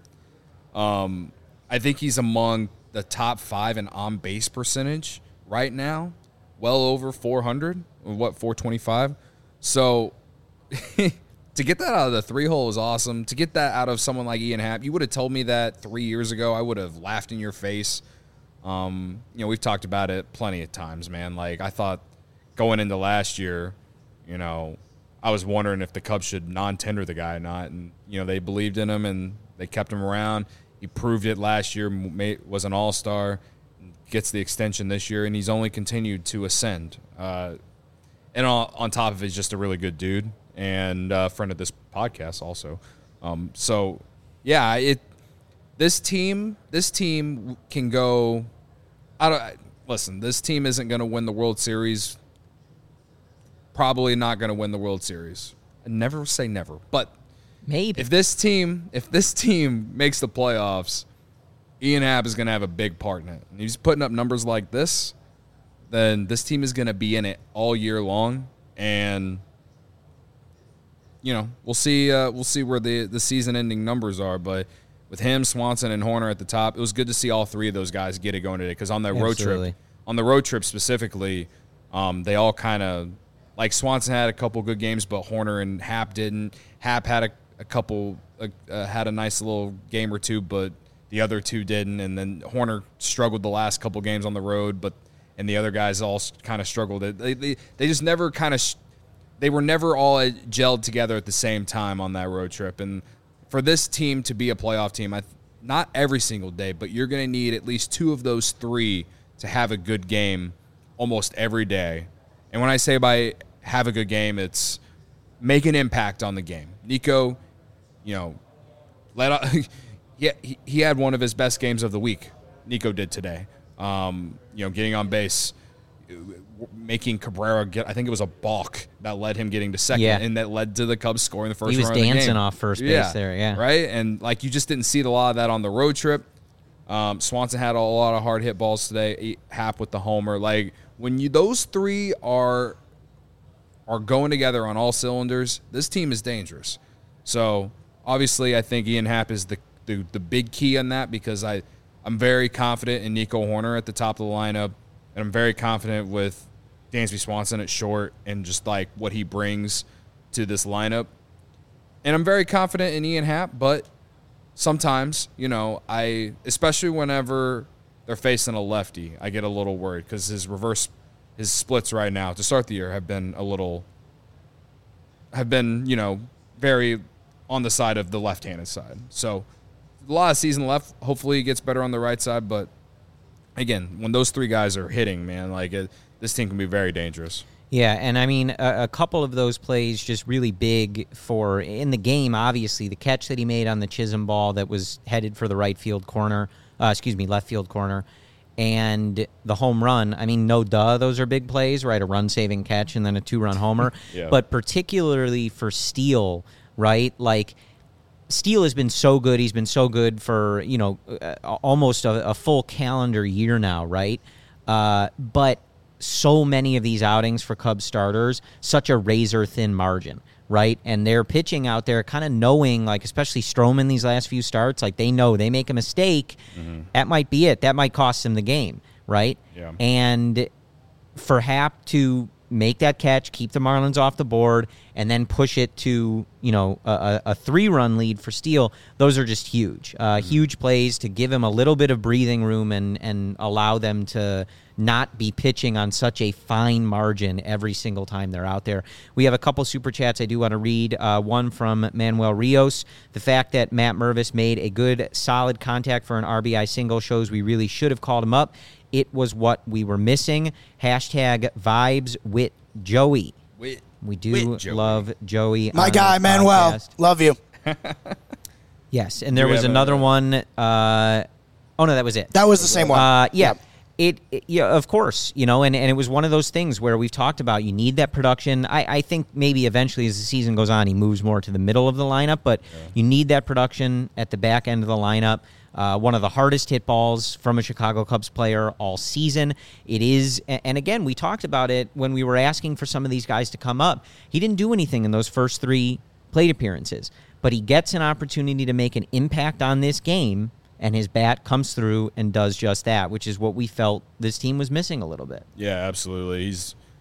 I think he's among the top 5 in on-base percentage right now, well over 400, 425. So to get that out of the 3-hole is awesome. To get that out of someone like Ian Happ, you would have told me that 3 years ago, I would have laughed in your face. We've talked about it plenty of times, man. Like, I thought going into last year, I was wondering if the Cubs should non-tender the guy or not. And, they believed in him and they kept him around. He proved it last year, was an all-star, gets the extension this year, and he's only continued to ascend. And on top of it, he's just a really good dude and a friend of this podcast also. This team can go. Listen, this team isn't going to win the World Series. Probably not going to win the World Series. I never say never, but
maybe
if this team makes the playoffs, Ian Happ is going to have a big part in it. And he's putting up numbers like this, then this team is going to be in it all year long. And, we'll see where the season-ending numbers are. But with him, Swanson, and Horner at the top, it was good to see all 3 of those guys get it going today. Because on that road trip specifically, they all kind of, like Swanson had a couple good games, but Horner and Happ didn't. Happ had a couple, had a nice little game or two, but the other 2 didn't, and then Horner struggled the last couple games on the road, and the other guys all kind of struggled. They just never they were never all gelled together at the same time on that road trip. And for this team to be a playoff team, not every single day, but you're going to need at least 2 of those 3 to have a good game almost every day. And when I say by have a good game, it's make an impact on the game. Nico, he had one of his best games of the week. Nico did today. Getting on base, making Cabrera get, I think it was a balk that led him getting to second,
Yeah.
and that led to the Cubs scoring the first
He was
run of the
dancing
game.
off first base there, yeah.
Right? And, like, you just didn't see a lot of that on the road trip. Swanson had a lot of hard hit balls today. Happ with the homer. Like, when those three are going together on all cylinders, this team is dangerous. So, obviously, I think Ian Happ is the big key on that, because I'm very confident in Nico Horner at the top of the lineup, and I'm very confident with Dansby Swanson at short and just, like, what he brings to this lineup. And I'm very confident in Ian Happ, but sometimes, especially whenever they're facing a lefty, I get a little worried, because his splits right now to start the year have been very on the side of the left-handed side. So a lot of season left. Hopefully he gets better on the right side. But again, when those three guys are hitting, man, this team can be very dangerous.
Yeah, and I mean, a couple of those plays just really big for in the game. Obviously, the catch that he made on the Chisholm ball that was headed for the left field corner, and the home run. I mean, those are big plays, right? A run-saving catch and then a 2-run homer.
Yeah.
But particularly for Steele, right? Like, Steele has been so good. He's been so good for, almost a full calendar year now, right? But so many of these outings for Cubs starters, such a razor-thin margin, right? And they're pitching out there kind of knowing, like, especially Stroman these last few starts, like, they know they make a mistake, that might be it. That might cost them the game, right?
Yeah.
And for Happ to make that catch, keep the Marlins off the board, and then push it to, a 3-run lead for Steele, those are just huge. Huge plays to give him a little bit of breathing room and allow them to not be pitching on such a fine margin every single time they're out there. We have a couple super chats I do want to read. One from Manuel Rios. The fact that Matt Mervis made a good, solid contact for an RBI single shows we really should have called him up. It was what we were missing. Hashtag vibes with Joey. We do love Joey.
My guy, Manuel.
Podcast.
Love you.
Yes, and there was another one. Oh, no, that was it.
That was the same one.
Yeah. Yeah, of course, and it was one of those things where we've talked about you need that production. I think maybe eventually as the season goes on, he moves more to the middle of the lineup, but you need that production at the back end of the lineup. One of the hardest hit balls from a Chicago Cubs player all season. It is, and again, we talked about it when we were asking for some of these guys to come up. He didn't do anything in those first 3 plate appearances, but he gets an opportunity to make an impact on this game, and his bat comes through and does just that, which is what we felt this team was missing a little bit.
Yeah, absolutely.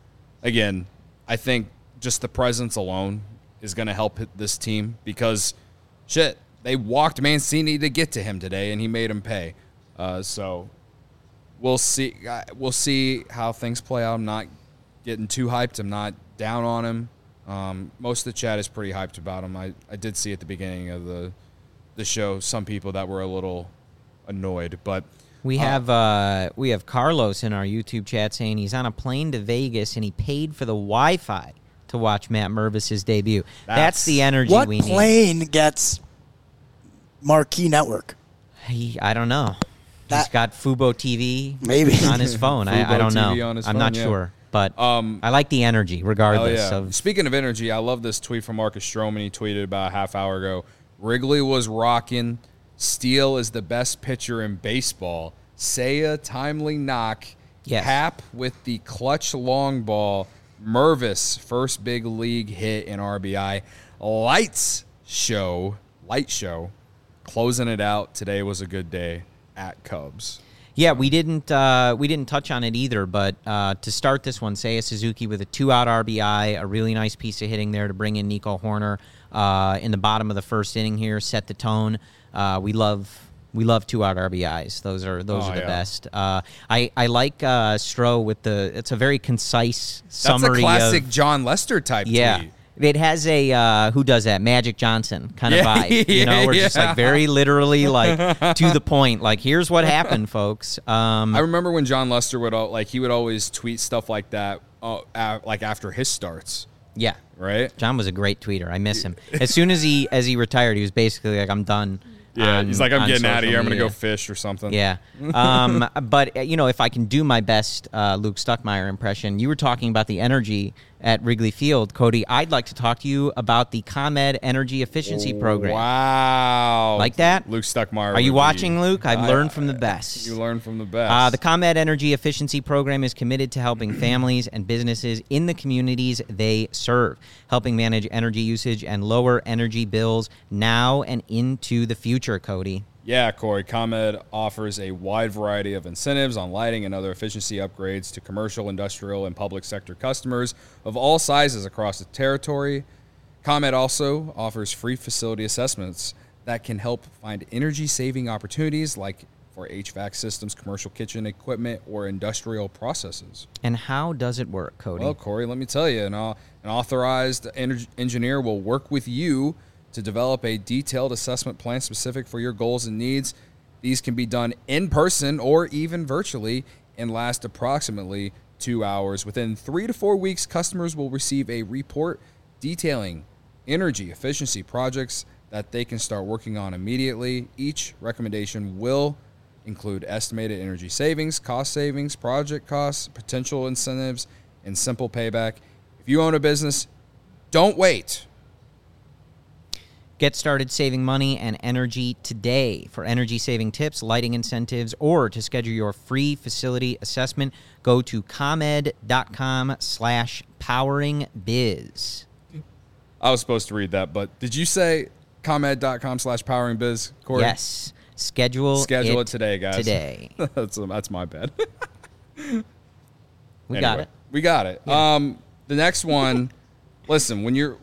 I think just the presence alone is going to help this team, because, they walked Mancini to get to him today, and he made him pay. So we'll see. We'll see how things play out. I'm not getting too hyped. I'm not down on him. Most of the chat is pretty hyped about him. I did see at the beginning of the show some people that were a little annoyed, but
we have Carlos in our YouTube chat saying he's on a plane to Vegas and he paid for the Wi-Fi to watch Matt Mervis' debut. That's the energy we need.
What plane gets marquee network?
I don't know. He's got Fubo TV
maybe
on his phone. I don't know. I'm not sure. But I like the energy regardless. Of
Speaking of energy, I love this tweet from Marcus Stroman. He tweeted about a half hour ago. Wrigley was rocking. Steele is the best pitcher in baseball. Seiya, timely knock.
Yes.
Happ with the clutch long ball. Mervis, first big league hit in RBI. Light show. Closing it out. Today was a good day at Cubs.
Yeah, we didn't touch on it either, but to start this one, Seiya Suzuki with a 2-out RBI, a really nice piece of hitting there to bring in Nico Horner in the bottom of the first inning here, set the tone. We love 2-out RBIs. Those are the best. I like Stroh with it's a very concise summary.
That's a classic John Lester type tweet.
It has a, who does that? Magic Johnson kind of vibe. We're just like very literally like to the point. Like, here's what happened, folks.
I remember when John Lester would always tweet stuff like that like after his starts.
Yeah.
Right?
John was a great tweeter. I miss him. As soon as he retired, he was basically like, I'm done.
Yeah, he's like, I'm
on
getting out of
social
here. I'm going to
media.
go fish or something.
Yeah. But, if I can do my best Luke Stuckmeyer impression, you were talking about the energy at Wrigley Field, Cody. I'd like to talk to you about the ComEd Energy Efficiency Program.
Wow.
Like that?
Luke Stuckmeyer.
Are you
would
watching,
be-
Luke? I've learned from the best.
You learn from the best.
The ComEd Energy Efficiency Program is committed to helping families and businesses in the communities they serve, helping manage energy usage and lower energy bills now and into the future, Cody.
Yeah, Corey, ComEd offers a wide variety of incentives on lighting and other efficiency upgrades to commercial, industrial, and public sector customers of all sizes across the territory. ComEd also offers free facility assessments that can help find energy-saving opportunities like for HVAC systems, commercial kitchen equipment, or industrial processes.
And how does it work, Cody?
Well, Corey, let me tell you, an authorized engineer will work with you to develop a detailed assessment plan specific for your goals and needs. These can be done in person or even virtually and last approximately 2 hours. Within 3 to 4 weeks, customers will receive a report detailing energy efficiency projects that they can start working on immediately. Each recommendation will include estimated energy savings, cost savings, project costs, potential incentives, and simple payback. If you own a business, don't wait.
Get started saving money and energy today. For energy-saving tips, lighting incentives, or to schedule your free facility assessment, go to comed.com/poweringbiz.
I was supposed to read that, but did you say comed.com/poweringbiz, Corey?
Yes. Schedule
it today, guys.
Today.
That's my bad.
We got it.
We got it.
Yeah.
The next one, listen, when you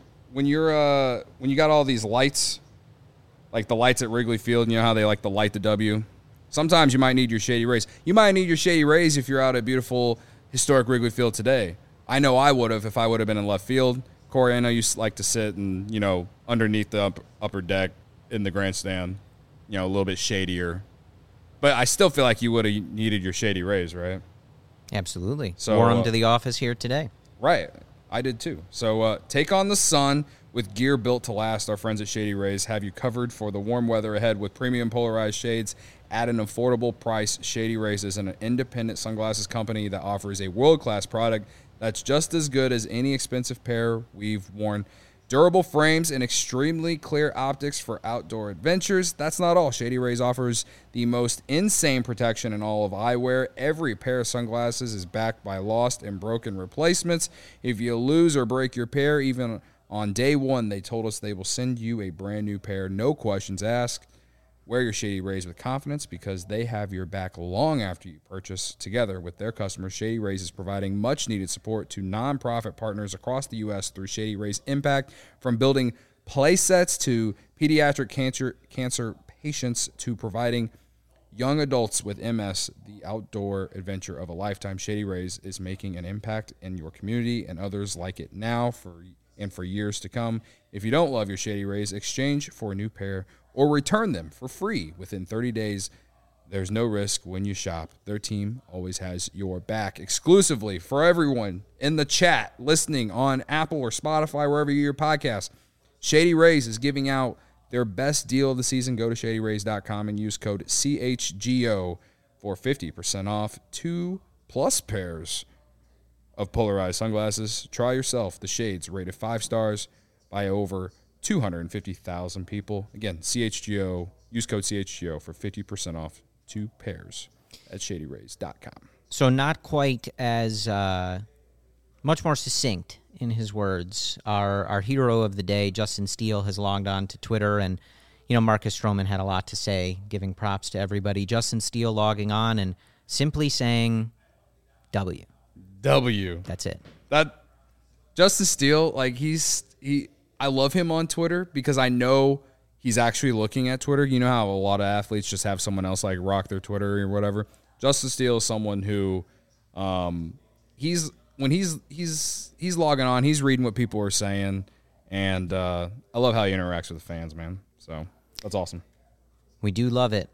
got all these lights, like the lights at Wrigley Field, you know how they like to light the W? Sometimes you might need your Shady Rays. You might need your Shady Rays if you're out at beautiful, historic Wrigley Field today. I know I would have if I would have been in left field. Corey, I know you like to sit and, underneath the upper deck in the grandstand, a little bit shadier. But I still feel like you would have needed your Shady Rays, right?
Absolutely.
So,
Wore them to the office here today.
Right. I did too. So take on the sun with gear built to last. Our friends at Shady Rays have you covered for the warm weather ahead with premium polarized shades at an affordable price. Shady Rays is an independent sunglasses company that offers a world-class product that's just as good as any expensive pair we've worn. Durable frames and extremely clear optics for outdoor adventures. That's not all. Shady Rays offers the most insane protection in all of eyewear. Every pair of sunglasses is backed by lost and broken replacements. If you lose or break your pair, even on day one, they told us they will send you a brand new pair. No questions asked. Wear your Shady Rays with confidence because they have your back long after you purchase. Together with their customers, Shady Rays is providing much-needed support to nonprofit partners across the U.S. through Shady Rays Impact, from building play sets to pediatric cancer patients to providing young adults with MS the outdoor adventure of a lifetime. Shady Rays is making an impact in your community and others like it now for years to come. If you don't love your Shady Rays, exchange for a new pair or return them for free within 30 days. There's no risk when you shop. Their team always has your back. Exclusively for everyone in the chat, listening on Apple or Spotify, wherever you hear your podcast, Shady Rays is giving out their best deal of the season. Go to shadyrays.com and use code CHGO for 50% off 2+ pairs of polarized sunglasses. Try yourself the shades rated 5 stars by over 250,000 people. Again, CHGO. Use code CHGO for 50% off 2 pairs at shadyrays.com.
So not quite as much more succinct in his words. Our hero of the day, Justin Steele, has logged on to Twitter, and Marcus Stroman had a lot to say, giving props to everybody. Justin Steele logging on and simply saying W. That's it.
That Justin Steele, I love him on Twitter because I know he's actually looking at Twitter. You know how a lot of athletes just have someone else rock their Twitter or whatever. Justin Steele is someone who, he's logging on, he's reading what people are saying, and I love how he interacts with the fans, man. So that's awesome.
We do love it.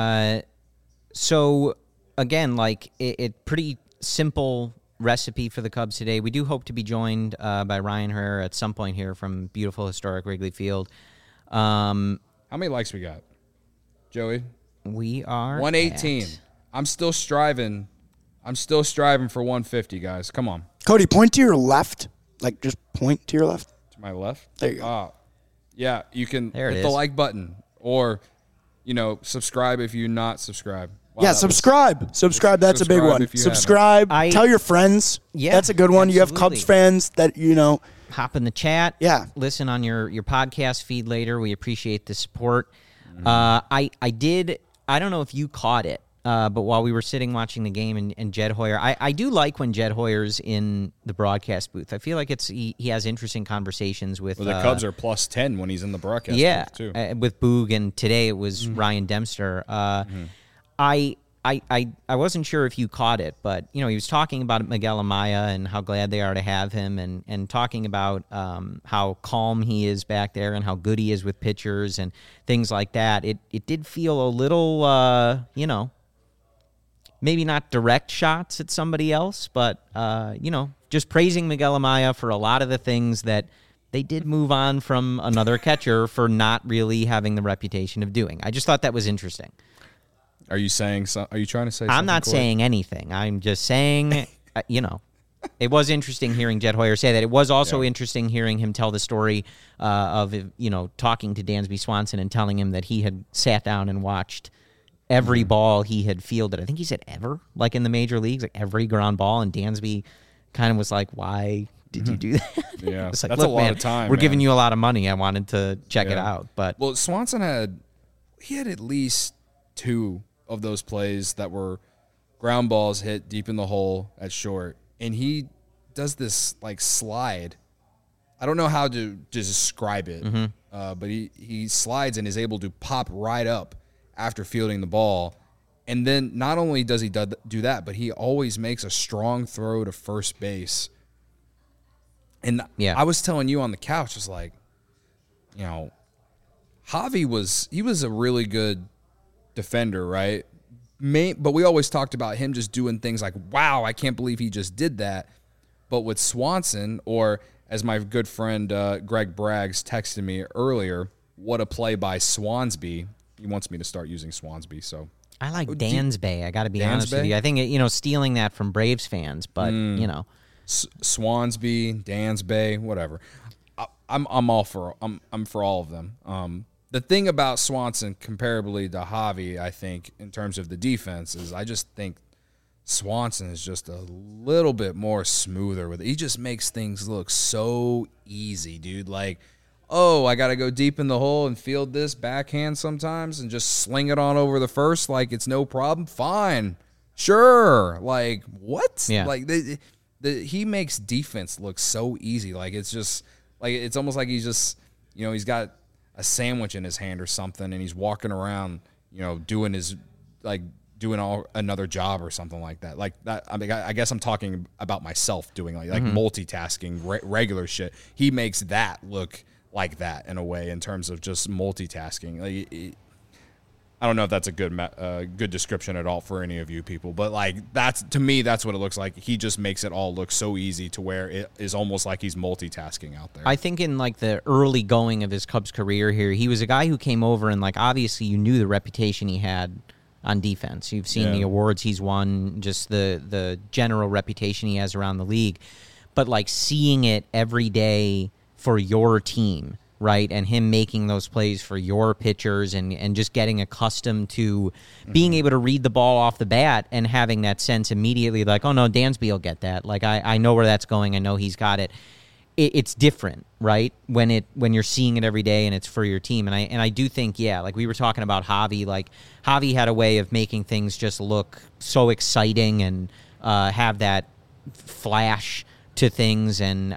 So again, it pretty simple recipe for the Cubs today. We do hope to be joined by Ryan Herrera at some point here from beautiful historic Wrigley Field.
How many likes we got? Joey?
We are
118.
at-
I'm still striving. I'm still striving for 150, guys. Come on.
Cody, point to your left. Like, just point to your left.
To my left.
There you go.
Yeah, you can
There it
hit the
is.
like button or, subscribe if you're not subscribed. Wow,
Yeah,
that was-
subscribe. Subscribe. That's a big
Subscribe
one.
if you haven't.
Subscribe. Tell your friends.
Yeah,
That's a good one. You have
absolutely.
Cubs fans that,
hop in the chat.
Yeah.
Listen on your podcast feed later. We appreciate the support.
Mm-hmm.
I don't know if you caught it, but while we were sitting watching the game and Jed Hoyer, I do like when Jed Hoyer's in the broadcast booth. I feel like he has interesting conversations with
Well, the Cubs are plus 10 when he's in the broadcast
yeah,
booth, too.
with Boog, and today it was Ryan Dempster. I wasn't sure if you caught it, but he was talking about Miguel Amaya and how glad they are to have him, and talking about how calm he is back there and how good he is with pitchers and things like that. It did feel a little, maybe not direct shots at somebody else, but just praising Miguel Amaya for a lot of the things that they did move on from another catcher for not really having the reputation of doing. I just thought that was interesting.
Are you saying are you trying to say something?
I'm not
Corey?
saying anything. I'm just saying, it was interesting hearing Jed Hoyer say that. It was also interesting hearing him tell the story of, talking to Dansby Swanson and telling him that he had sat down and watched every ball he had fielded. I think he said ever, like in the major leagues, like every ground ball. And Dansby kind of was like, why did you do that?
Yeah,
It's like,
that's
look,
a lot
man,
of time.
We're
man.
giving you a lot of money. I wanted to check it
Yeah.
out. But
Well, Swanson had at least 2 of those plays that were ground balls hit deep in the hole at short, and he does this like slide. I don't know how to describe it, but he slides and is able to pop right up after fielding the ball. And then not only does he do that, but he always makes a strong throw to first base. And
Yeah.
I was telling you on the couch, was like, Javi was a really good defender, right? But we always talked about him just doing things like, wow, I can't believe he just did that. But with Swanson, or as my good friend Greg Braggs texted me earlier, what a play by Swansby. He wants me to start using Swansby, so.
I like Dansby. I got to be honest with
Dansby?
you. I think, stealing that from Braves fans, but,
Swansby, Dansby, whatever. I'm all for I'm for all of them. The thing about Swanson, comparably to Javi, I think, in terms of the defense, is I just think Swanson is just a little bit more smoother with it. He just makes things look so easy, dude. Like, oh, I got to go deep in the hole and field this backhand sometimes and just sling it on over the first like it's no problem. Fine. Sure. Like, what?
Yeah.
Like, he makes defense look so easy. Like, it's just, like, it's almost like he's just, he's got a sandwich in his hand or something and he's walking around, doing his, like, doing another job or something like that. Like that. I mean, I guess I'm talking about myself doing like multitasking, regular shit. He makes that look like that in a way in terms of just multitasking. Like, I don't know if that's a good description at all for any of you people, but like to me, that's what it looks like. He just makes it all look so easy to where it is almost like he's multitasking out there.
I think in like the early going of his Cubs career here, he was a guy who came over and like obviously you knew the reputation he had on defense. You've seen the awards he's won, just the general reputation he has around the league. But like seeing it every day for your team, right, and him making those plays for your pitchers and just getting accustomed to being able to read the ball off the bat and having that sense immediately like, oh, no, Dansby will get that. Like, I know where that's going. I know he's got it. It's different, right, when you're seeing it every day and it's for your team. And I do think, like we were talking about Javi. Like, Javi had a way of making things just look so exciting and have that flash to things. And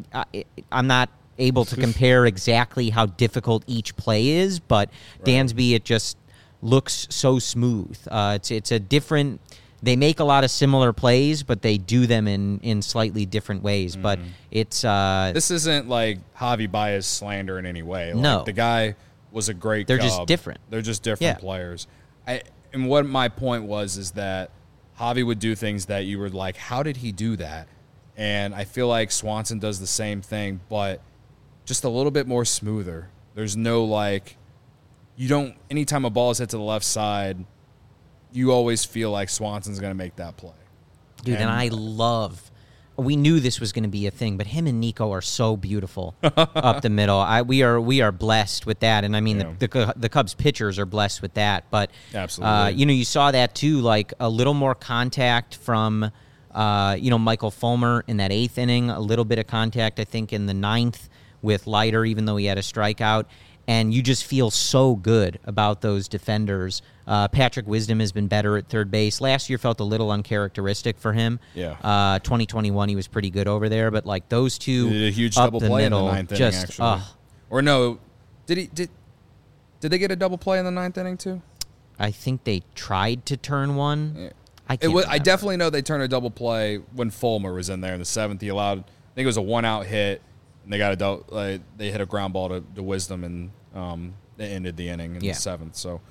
I'm not able to compare exactly how difficult each play is, but Dansby, it just looks so smooth. It's a different. They make a lot of similar plays, but they do them in slightly different ways. But it's
this isn't like Javi Baez slander in any way. Like,
no,
the guy was a great.
They're
Cub.
just different.
They're just different players. And what my point was is that Javi would do things that you were like, how did he do that? And I feel like Swanson does the same thing, but just a little bit more smoother. There's no like you don't. Anytime a ball is hit to the left side, you always feel like Swanson's going to make that play.
Dude, and I love. We knew this was going to be a thing, but him and Nico are so beautiful up the middle. We are blessed with that, and I mean the Cubs pitchers are blessed with that. But
absolutely,
you saw that too, like a little more contact from Michael Fulmer in that 8th inning, a little bit of contact I think in the 9th with Leiter, even though he had a strikeout. And you just feel so good about those defenders. Patrick Wisdom has been better at third base. Last year felt a little uncharacteristic for him.
Yeah.
2021 he was pretty good over there, but like those two,
he did a huge
up
double
the
play
middle,
in the 9th
just,
inning. Actually, or no? Did they get a double play in the 9th inning too?
I think they tried to turn one.
Yeah.
I
definitely know they turned a double play when Fulmer was in there in the 7th. He allowed, I think it was a 1-out hit. And they got they hit a ground ball to Wisdom, and they ended the inning in the 7th. So,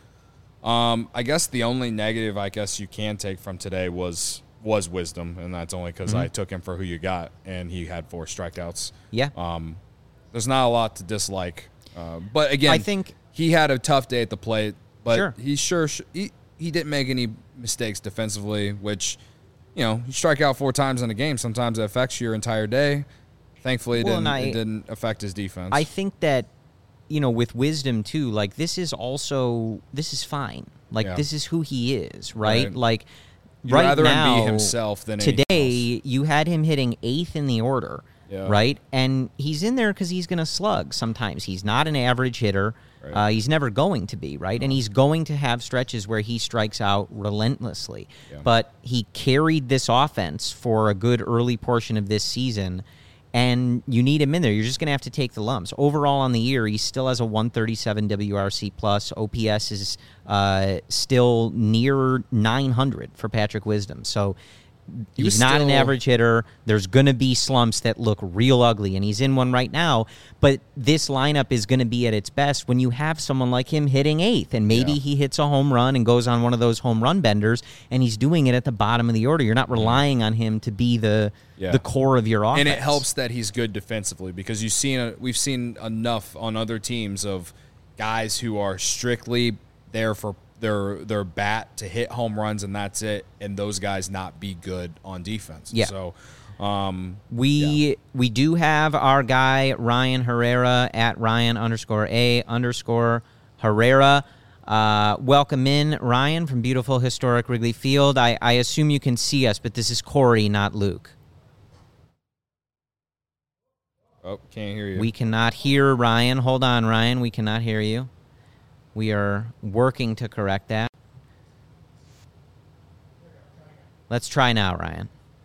I guess the only negative I guess you can take from today was Wisdom, and that's only because I took him for who you got, and he had 4 strikeouts.
Yeah.
There's not a lot to dislike, but again,
I think
he had a tough day at the plate, but
sure.
he didn't make any mistakes defensively, which you strike out 4 times in a game. Sometimes it affects your entire day. Thankfully, it didn't affect his defense.
I think that, with Wisdom, too, like, this is fine. Like, this is who he is, right? Like,
You'd
right
rather
now,
him be himself than
today,
else.
you had him hitting 8th in the order, right? And he's in there because he's going to slug sometimes. He's not an average hitter. Right. He's never going to be, right? And he's going to have stretches where he strikes out relentlessly. Yeah. But he carried this offense for a good early portion of this season, and you need him in there. You're just going to have to take the lumps. Overall on the year, he still has a 137 WRC+. OPS is still near 900 for Patrick Wisdom. So he's not an average hitter. There's going to be slumps that look real ugly, and he's in one right now. But this lineup is going to be at its best when you have someone like him hitting 8th, and maybe he hits a home run and goes on one of those home run benders, and he's doing it at the bottom of the order. You're not relying on him to be the core of your offense.
And it helps that he's good defensively, because we've seen enough on other teams of guys who are strictly there for their bat to hit home runs, and that's it, and those guys not be good on defense.
Yeah.
So
we do have our guy Ryan Herrera at Ryan_A_Herrera. Welcome in, Ryan, from beautiful historic Wrigley Field. I assume you can see us, but this is Corey, not Luke.
Oh, can't hear you.
We cannot hear Ryan. Hold on, Ryan. We cannot hear you. We are working to correct that. Let's try now, Ryan.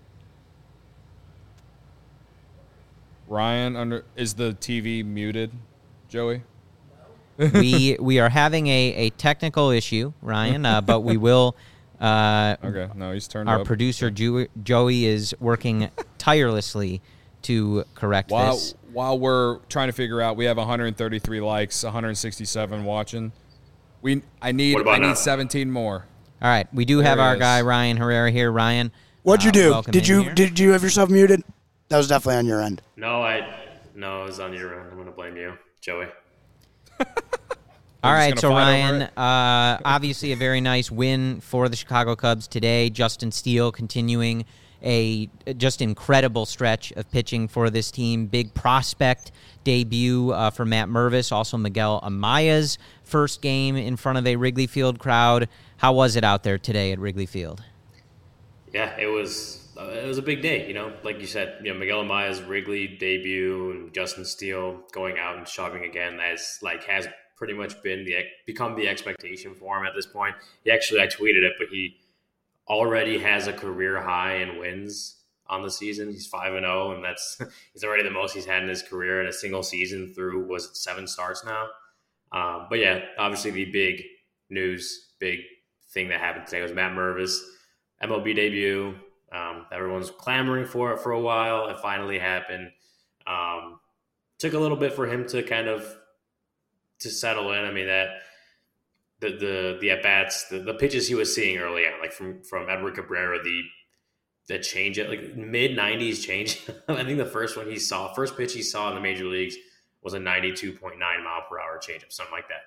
Ryan, is the TV muted, Joey?
We are having a technical issue, Ryan, but we will.
Okay, no, he's turned
our
up.
Producer Joey is working tirelessly to correct this.
While we're trying to figure out, we have 133 likes, 167 watching. I need 17 more.
All right, we do have our guy Ryan Herrera here. Ryan,
what'd you do? Did you have yourself muted? That was definitely on your end.
No, it was on your end. I'm gonna blame you, Joey.
All right, so Ryan, obviously a very nice win for the Chicago Cubs today. Justin Steele continuing a just incredible stretch of pitching for this team. Big prospect debut for Matt Mervis, also Miguel Amaya's first game in front of a Wrigley Field crowd. How was it out there today at Wrigley Field?
Yeah, it was a big day, like you said, Miguel Amaya's Wrigley debut and Justin Steele going out and shoving again has pretty much become the expectation for him at this point. I tweeted it, but he already has a career high in wins on the season. He's 5-0, and he's already the most he's had in his career in a single season through 7 starts now. But yeah, obviously the big thing that happened today was Matt Mervis MLB debut. Everyone's clamoring for it for a while. It finally happened. Took a little bit for him to kind of to settle in. I mean, that the at bats, the pitches he was seeing early on, like from Edward Cabrera, the change at like mid 90s change. I think the first pitch he saw in the major leagues was a 92.9 mile per hour changeup, something like that.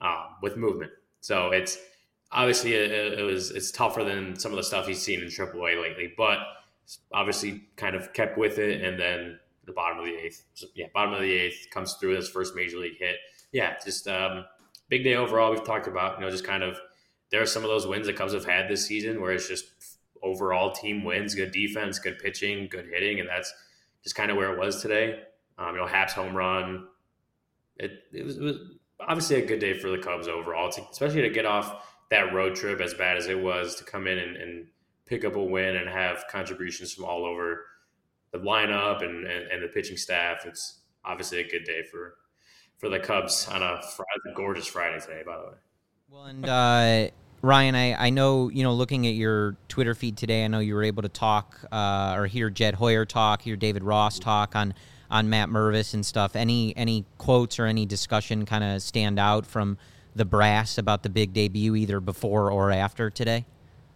with movement. So it's obviously it's tougher than some of the stuff he's seen in AAA lately, but obviously kind of kept with it. And then the bottom of the eighth, bottom of the eighth comes through his first major league hit. Yeah, just big day overall. We've talked about, just kind of there are some of those wins that Cubs have had this season where it's just overall team wins, good defense, good pitching, good hitting, and that's just kind of where it was today. Happ's home run. It was obviously a good day for the Cubs overall, especially to get off that road trip as bad as it was, to come in and pick up a win and have contributions from all over the lineup and the pitching staff. It's obviously a good day for the Cubs on a gorgeous Friday today, by the way. Well,
and Ryan, I know, looking at your Twitter feed today, I know you were able to talk or hear Jed Hoyer talk, hear David Ross talk on Matt Mervis and stuff. Any quotes or any discussion kind of stand out from the brass about the big debut, either before or after today?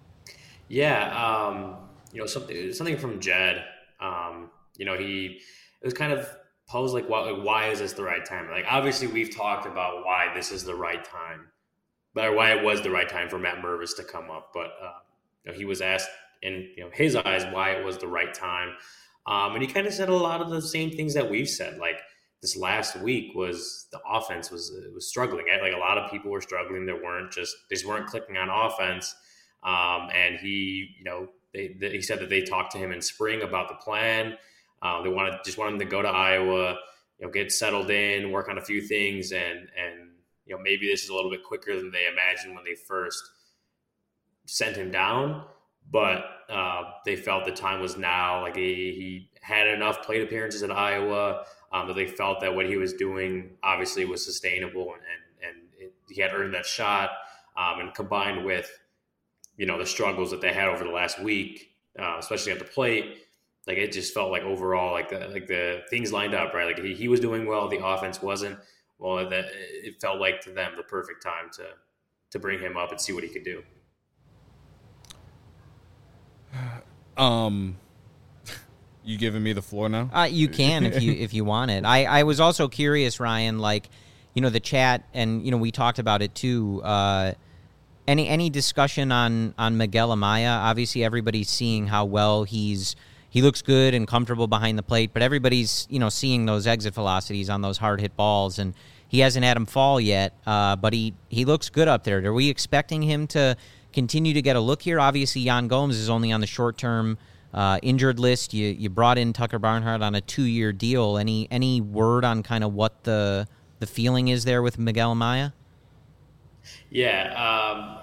Yeah, something from Jed. It was kind of posed like, why is this the right time? Like, obviously, we've talked about why this is the right time, or why it was the right time for Matt Mervis to come up. But he was asked in his eyes why it was the right time, and he kind of said a lot of the same things that we've said. Like, this last week was the offense was struggling. Like, a lot of people were struggling. They just weren't clicking on offense. And he said that they talked to him in spring about the plan. They wanted him to go to Iowa, get settled in, work on a few things, and maybe this is a little bit quicker than they imagined when they first sent him down. But they felt the time was now. Like, he had enough plate appearances at Iowa that they felt that what he was doing obviously was sustainable, and he had earned that shot. And combined with the struggles that they had over the last week, especially at the plate, like, it just felt like overall, like the things lined up, right? Like, he was doing well, the offense wasn't. Well, it felt like to them the perfect time to bring him up and see what he could do.
You giving me the floor now?
You can if you want it. I was also curious, Ryan, like, the chat, and we talked about it too. Any discussion on Miguel Amaya? Obviously, everybody's seeing how well he looks good and comfortable behind the plate, but everybody's seeing those exit velocities on those hard hit balls, and he hasn't had him fall yet. But he looks good up there. Are we expecting him to continue to get a look here? Obviously, Yan Gomes is only on the short term injured list. You brought in Tucker Barnhart on a 2-year deal. Any word on kind of what the feeling is there with Miguel Amaya?
Yeah,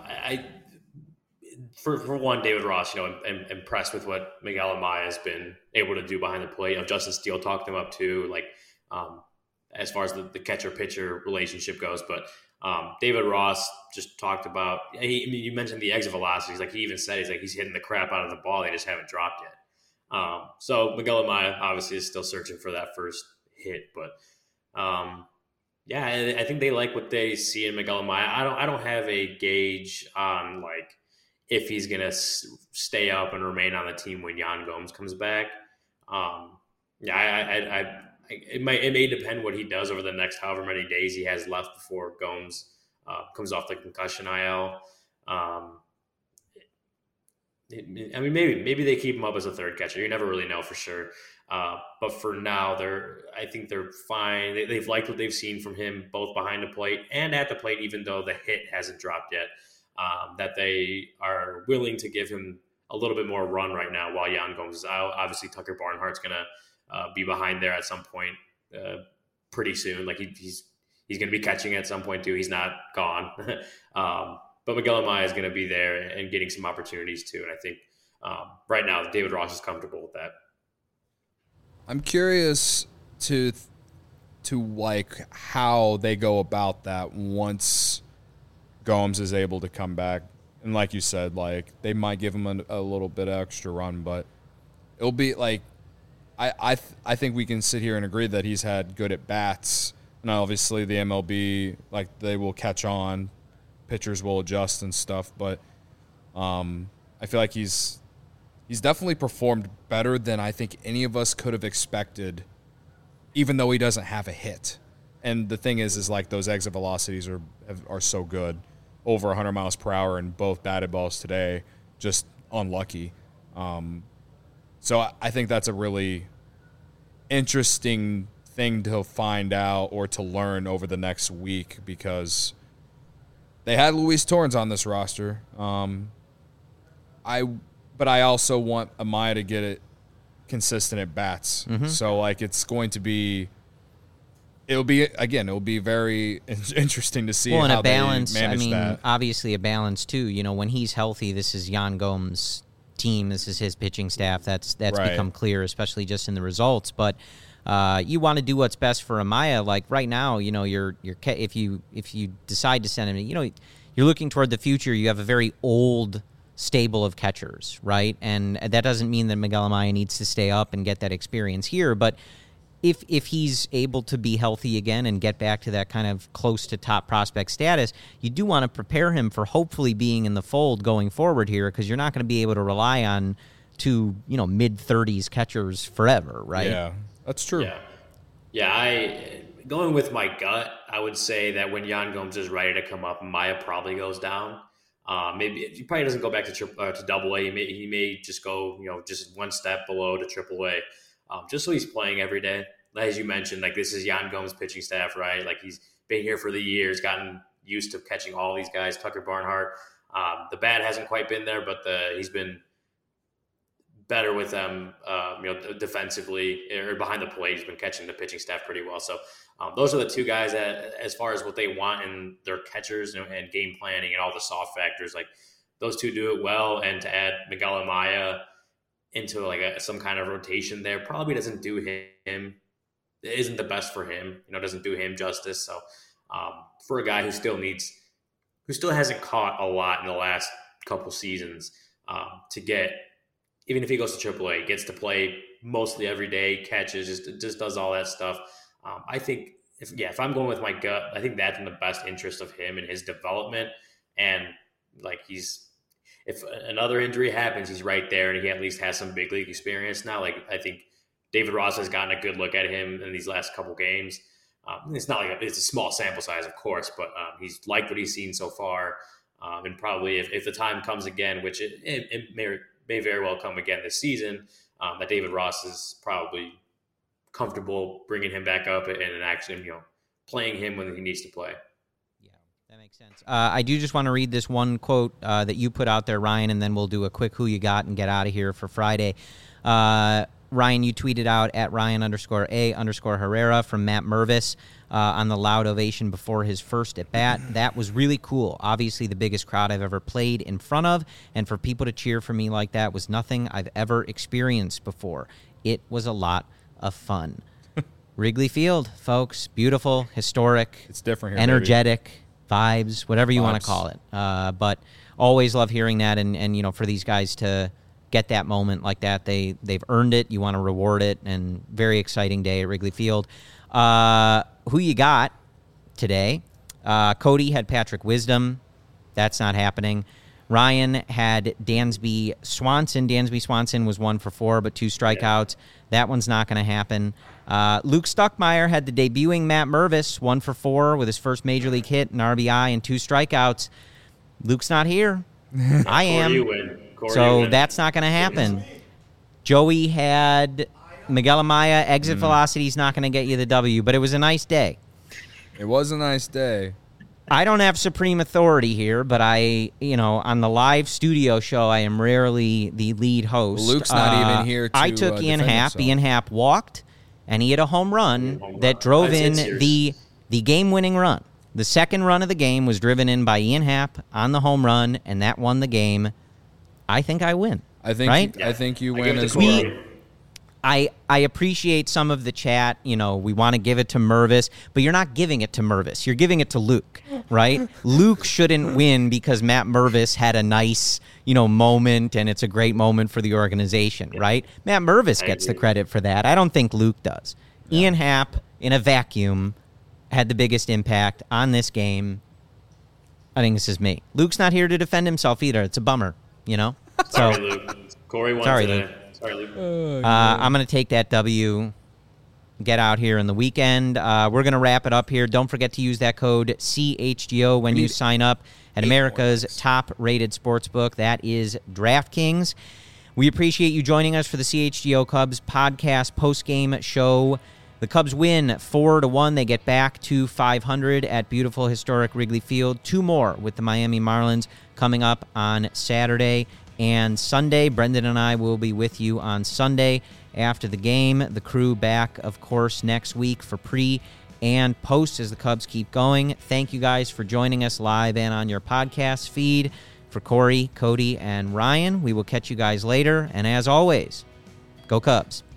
for one, David Ross, I'm impressed with what Miguel Amaya has been able to do behind the plate. Justin Steele talked him up too, like as far as the catcher-pitcher relationship goes. But David Ross just talked about, you mentioned the exit velocities. Like, he even said, he's hitting the crap out of the ball. They just haven't dropped yet. So Miguel Amaya obviously is still searching for that first hit. But yeah, I think they like what they see in Miguel Amaya. I don't have a gauge on, like, if he's going to stay up and remain on the team when Yan Gomes comes back. It may depend what he does over the next however many days he has left before Gomes comes off the concussion IL. Maybe they keep him up as a third catcher. You never really know for sure. But for now, I think they're fine. They've liked what they've seen from him, both behind the plate and at the plate, even though the hit hasn't dropped yet. That they are willing to give him a little bit more run right now while Yan Gomes is out. Obviously, Tucker Barnhart's going to be behind there at some point pretty soon. Like, he's going to be catching at some point too. He's not gone. But Miguel Amaya is going to be there and getting some opportunities too. And I think right now David Ross is comfortable with that.
I'm curious to like how they go about that once Gomes is able to come back. And like you said, like, they might give him a little bit of extra run, but it'll be like, I think we can sit here and agree that he's had good at bats. And obviously the MLB, like, they will catch on, pitchers will adjust and stuff. But I feel like he's definitely performed better than I think any of us could have expected, even though he doesn't have a hit. And the thing is like those exit velocities are so good, over 100 miles per hour, and both batted balls today, just unlucky. So I think that's a really interesting thing to find out or to learn over the next week, because they had Luis Torrens on this roster. But I also want Amaya to get it consistent at bats. Mm-hmm. So like it'll be very interesting to see how they manage that.
Obviously a balance too. You know, when he's healthy, this is Yan Gomes' team. This is his pitching staff. That's right. Become clear, especially just in the results. But you want to do what's best for Amaya. Like right now, you know, if you decide to send him, you know, you're looking toward the future. You have a very old stable of catchers, right? And that doesn't mean that Miguel Amaya needs to stay up and get that experience here, but if he's able to be healthy again and get back to that kind of close to top prospect status, you do want to prepare him for hopefully being in the fold going forward here, because you're not going to be able to rely on two, you know, mid-30s catchers forever, right?
Yeah, that's true.
Going with my gut, I would say that when Yan Gomes is ready to come up, Amaya probably goes down. Maybe he probably doesn't go back to Double A. He may just go, you know, just one step below to Triple A, just so he's playing every day. As you mentioned, like this is Yan Gomes' pitching staff, right? Like he's been here for the years, gotten used to catching all these guys. Tucker Barnhart, the bat hasn't quite been there, but he's been better with them, you know, defensively or behind the plate. He's been catching the pitching staff pretty well. So those are the two guys that, as far as what they want in their catchers and game planning and all the soft factors, like those two do it well. And to add Miguel Amaya into like some kind of rotation there probably doesn't do him. It isn't the best for him. You know, doesn't do him justice. So for a guy who still hasn't caught a lot in the last couple seasons, to get, even if he goes to AAA, gets to play mostly every day, catches, just does all that stuff. I think if I'm going with my gut, I think that's in the best interest of him and his development. And like if another injury happens, he's right there, and he at least has some big league experience now. Like I think David Ross has gotten a good look at him in these last couple games. It's not like it's a small sample size, of course, but he's liked what he's seen so far. And probably if the time comes again, which it may very well come again this season, that David Ross is probably comfortable bringing him back up and actually, you know, playing him when he needs to play.
Yeah, that makes sense. I do just want to read this one quote that you put out there, Ryan, and then we'll do a quick who you got and get out of here for Friday. Ryan, you tweeted out at Ryan_A_Herrera from Matt Mervis on the loud ovation before his first at-bat. That was really cool. Obviously the biggest crowd I've ever played in front of, and for people to cheer for me like that was nothing I've ever experienced before. It was a lot of fun. Wrigley Field, folks. Beautiful, historic.
It's different here,
energetic, baby. Vibes, whatever you want to call it. But always love hearing that, and you know, for these guys to get that moment like that, they've earned it. You want to reward it, and very exciting day at Wrigley Field. Who you got today? Cody had Patrick Wisdom. That's not happening. Ryan had Dansby Swanson. Dansby Swanson was 1 for 4, but 2 strikeouts. That one's not going to happen. Luke Stuckmeyer had the debuting Matt Mervis, 1 for 4 with his first major league hit, an RBI, and 2 strikeouts. Luke's not here. I am. So that's not going to happen. Joey had Miguel Amaya. Exit velocity is not going to get you the W, but it was a nice day.
It was a nice day.
I don't have supreme authority here, but on the live studio show, I am rarely the lead host.
Luke's not even here to
I took Ian Happ.
himself.
Ian Happ walked, and he hit a home run that drove in the game-winning run. The second run of the game was driven in by Ian Happ on the home run, and that won the game. I think I win.
I think
right?
I think you win as well.
I appreciate some of the chat. You know, we want to give it to Mervis, but you're not giving it to Mervis. You're giving it to Luke, right? Luke shouldn't win because Matt Mervis had a nice, moment, and it's a great moment for the organization, right? Matt Mervis gets the credit for that. I don't think Luke does. Yeah. Ian Happ, in a vacuum, had the biggest impact on this game. I think this is me. Luke's not here to defend himself either. It's a bummer, So,
sorry, Luke. Corey won today.
Luke. Sorry, Luke. I'm going to take that W get out here in the weekend. We're going to wrap it up here. Don't forget to use that code CHGO when you sign up at America's top-rated sportsbook. That is DraftKings. We appreciate you joining us for the CHGO Cubs podcast post-game show. The Cubs win 4-1. They get back to 500 at beautiful historic Wrigley Field. 2 more with the Miami Marlins coming up on Saturday and Sunday. Brendan and I will be with you on Sunday after the game. The crew back, of course, next week for pre and post as the Cubs keep going. Thank you guys for joining us live and on your podcast feed. For Corey, Cody, and Ryan, we will catch you guys later. And as always, go Cubs.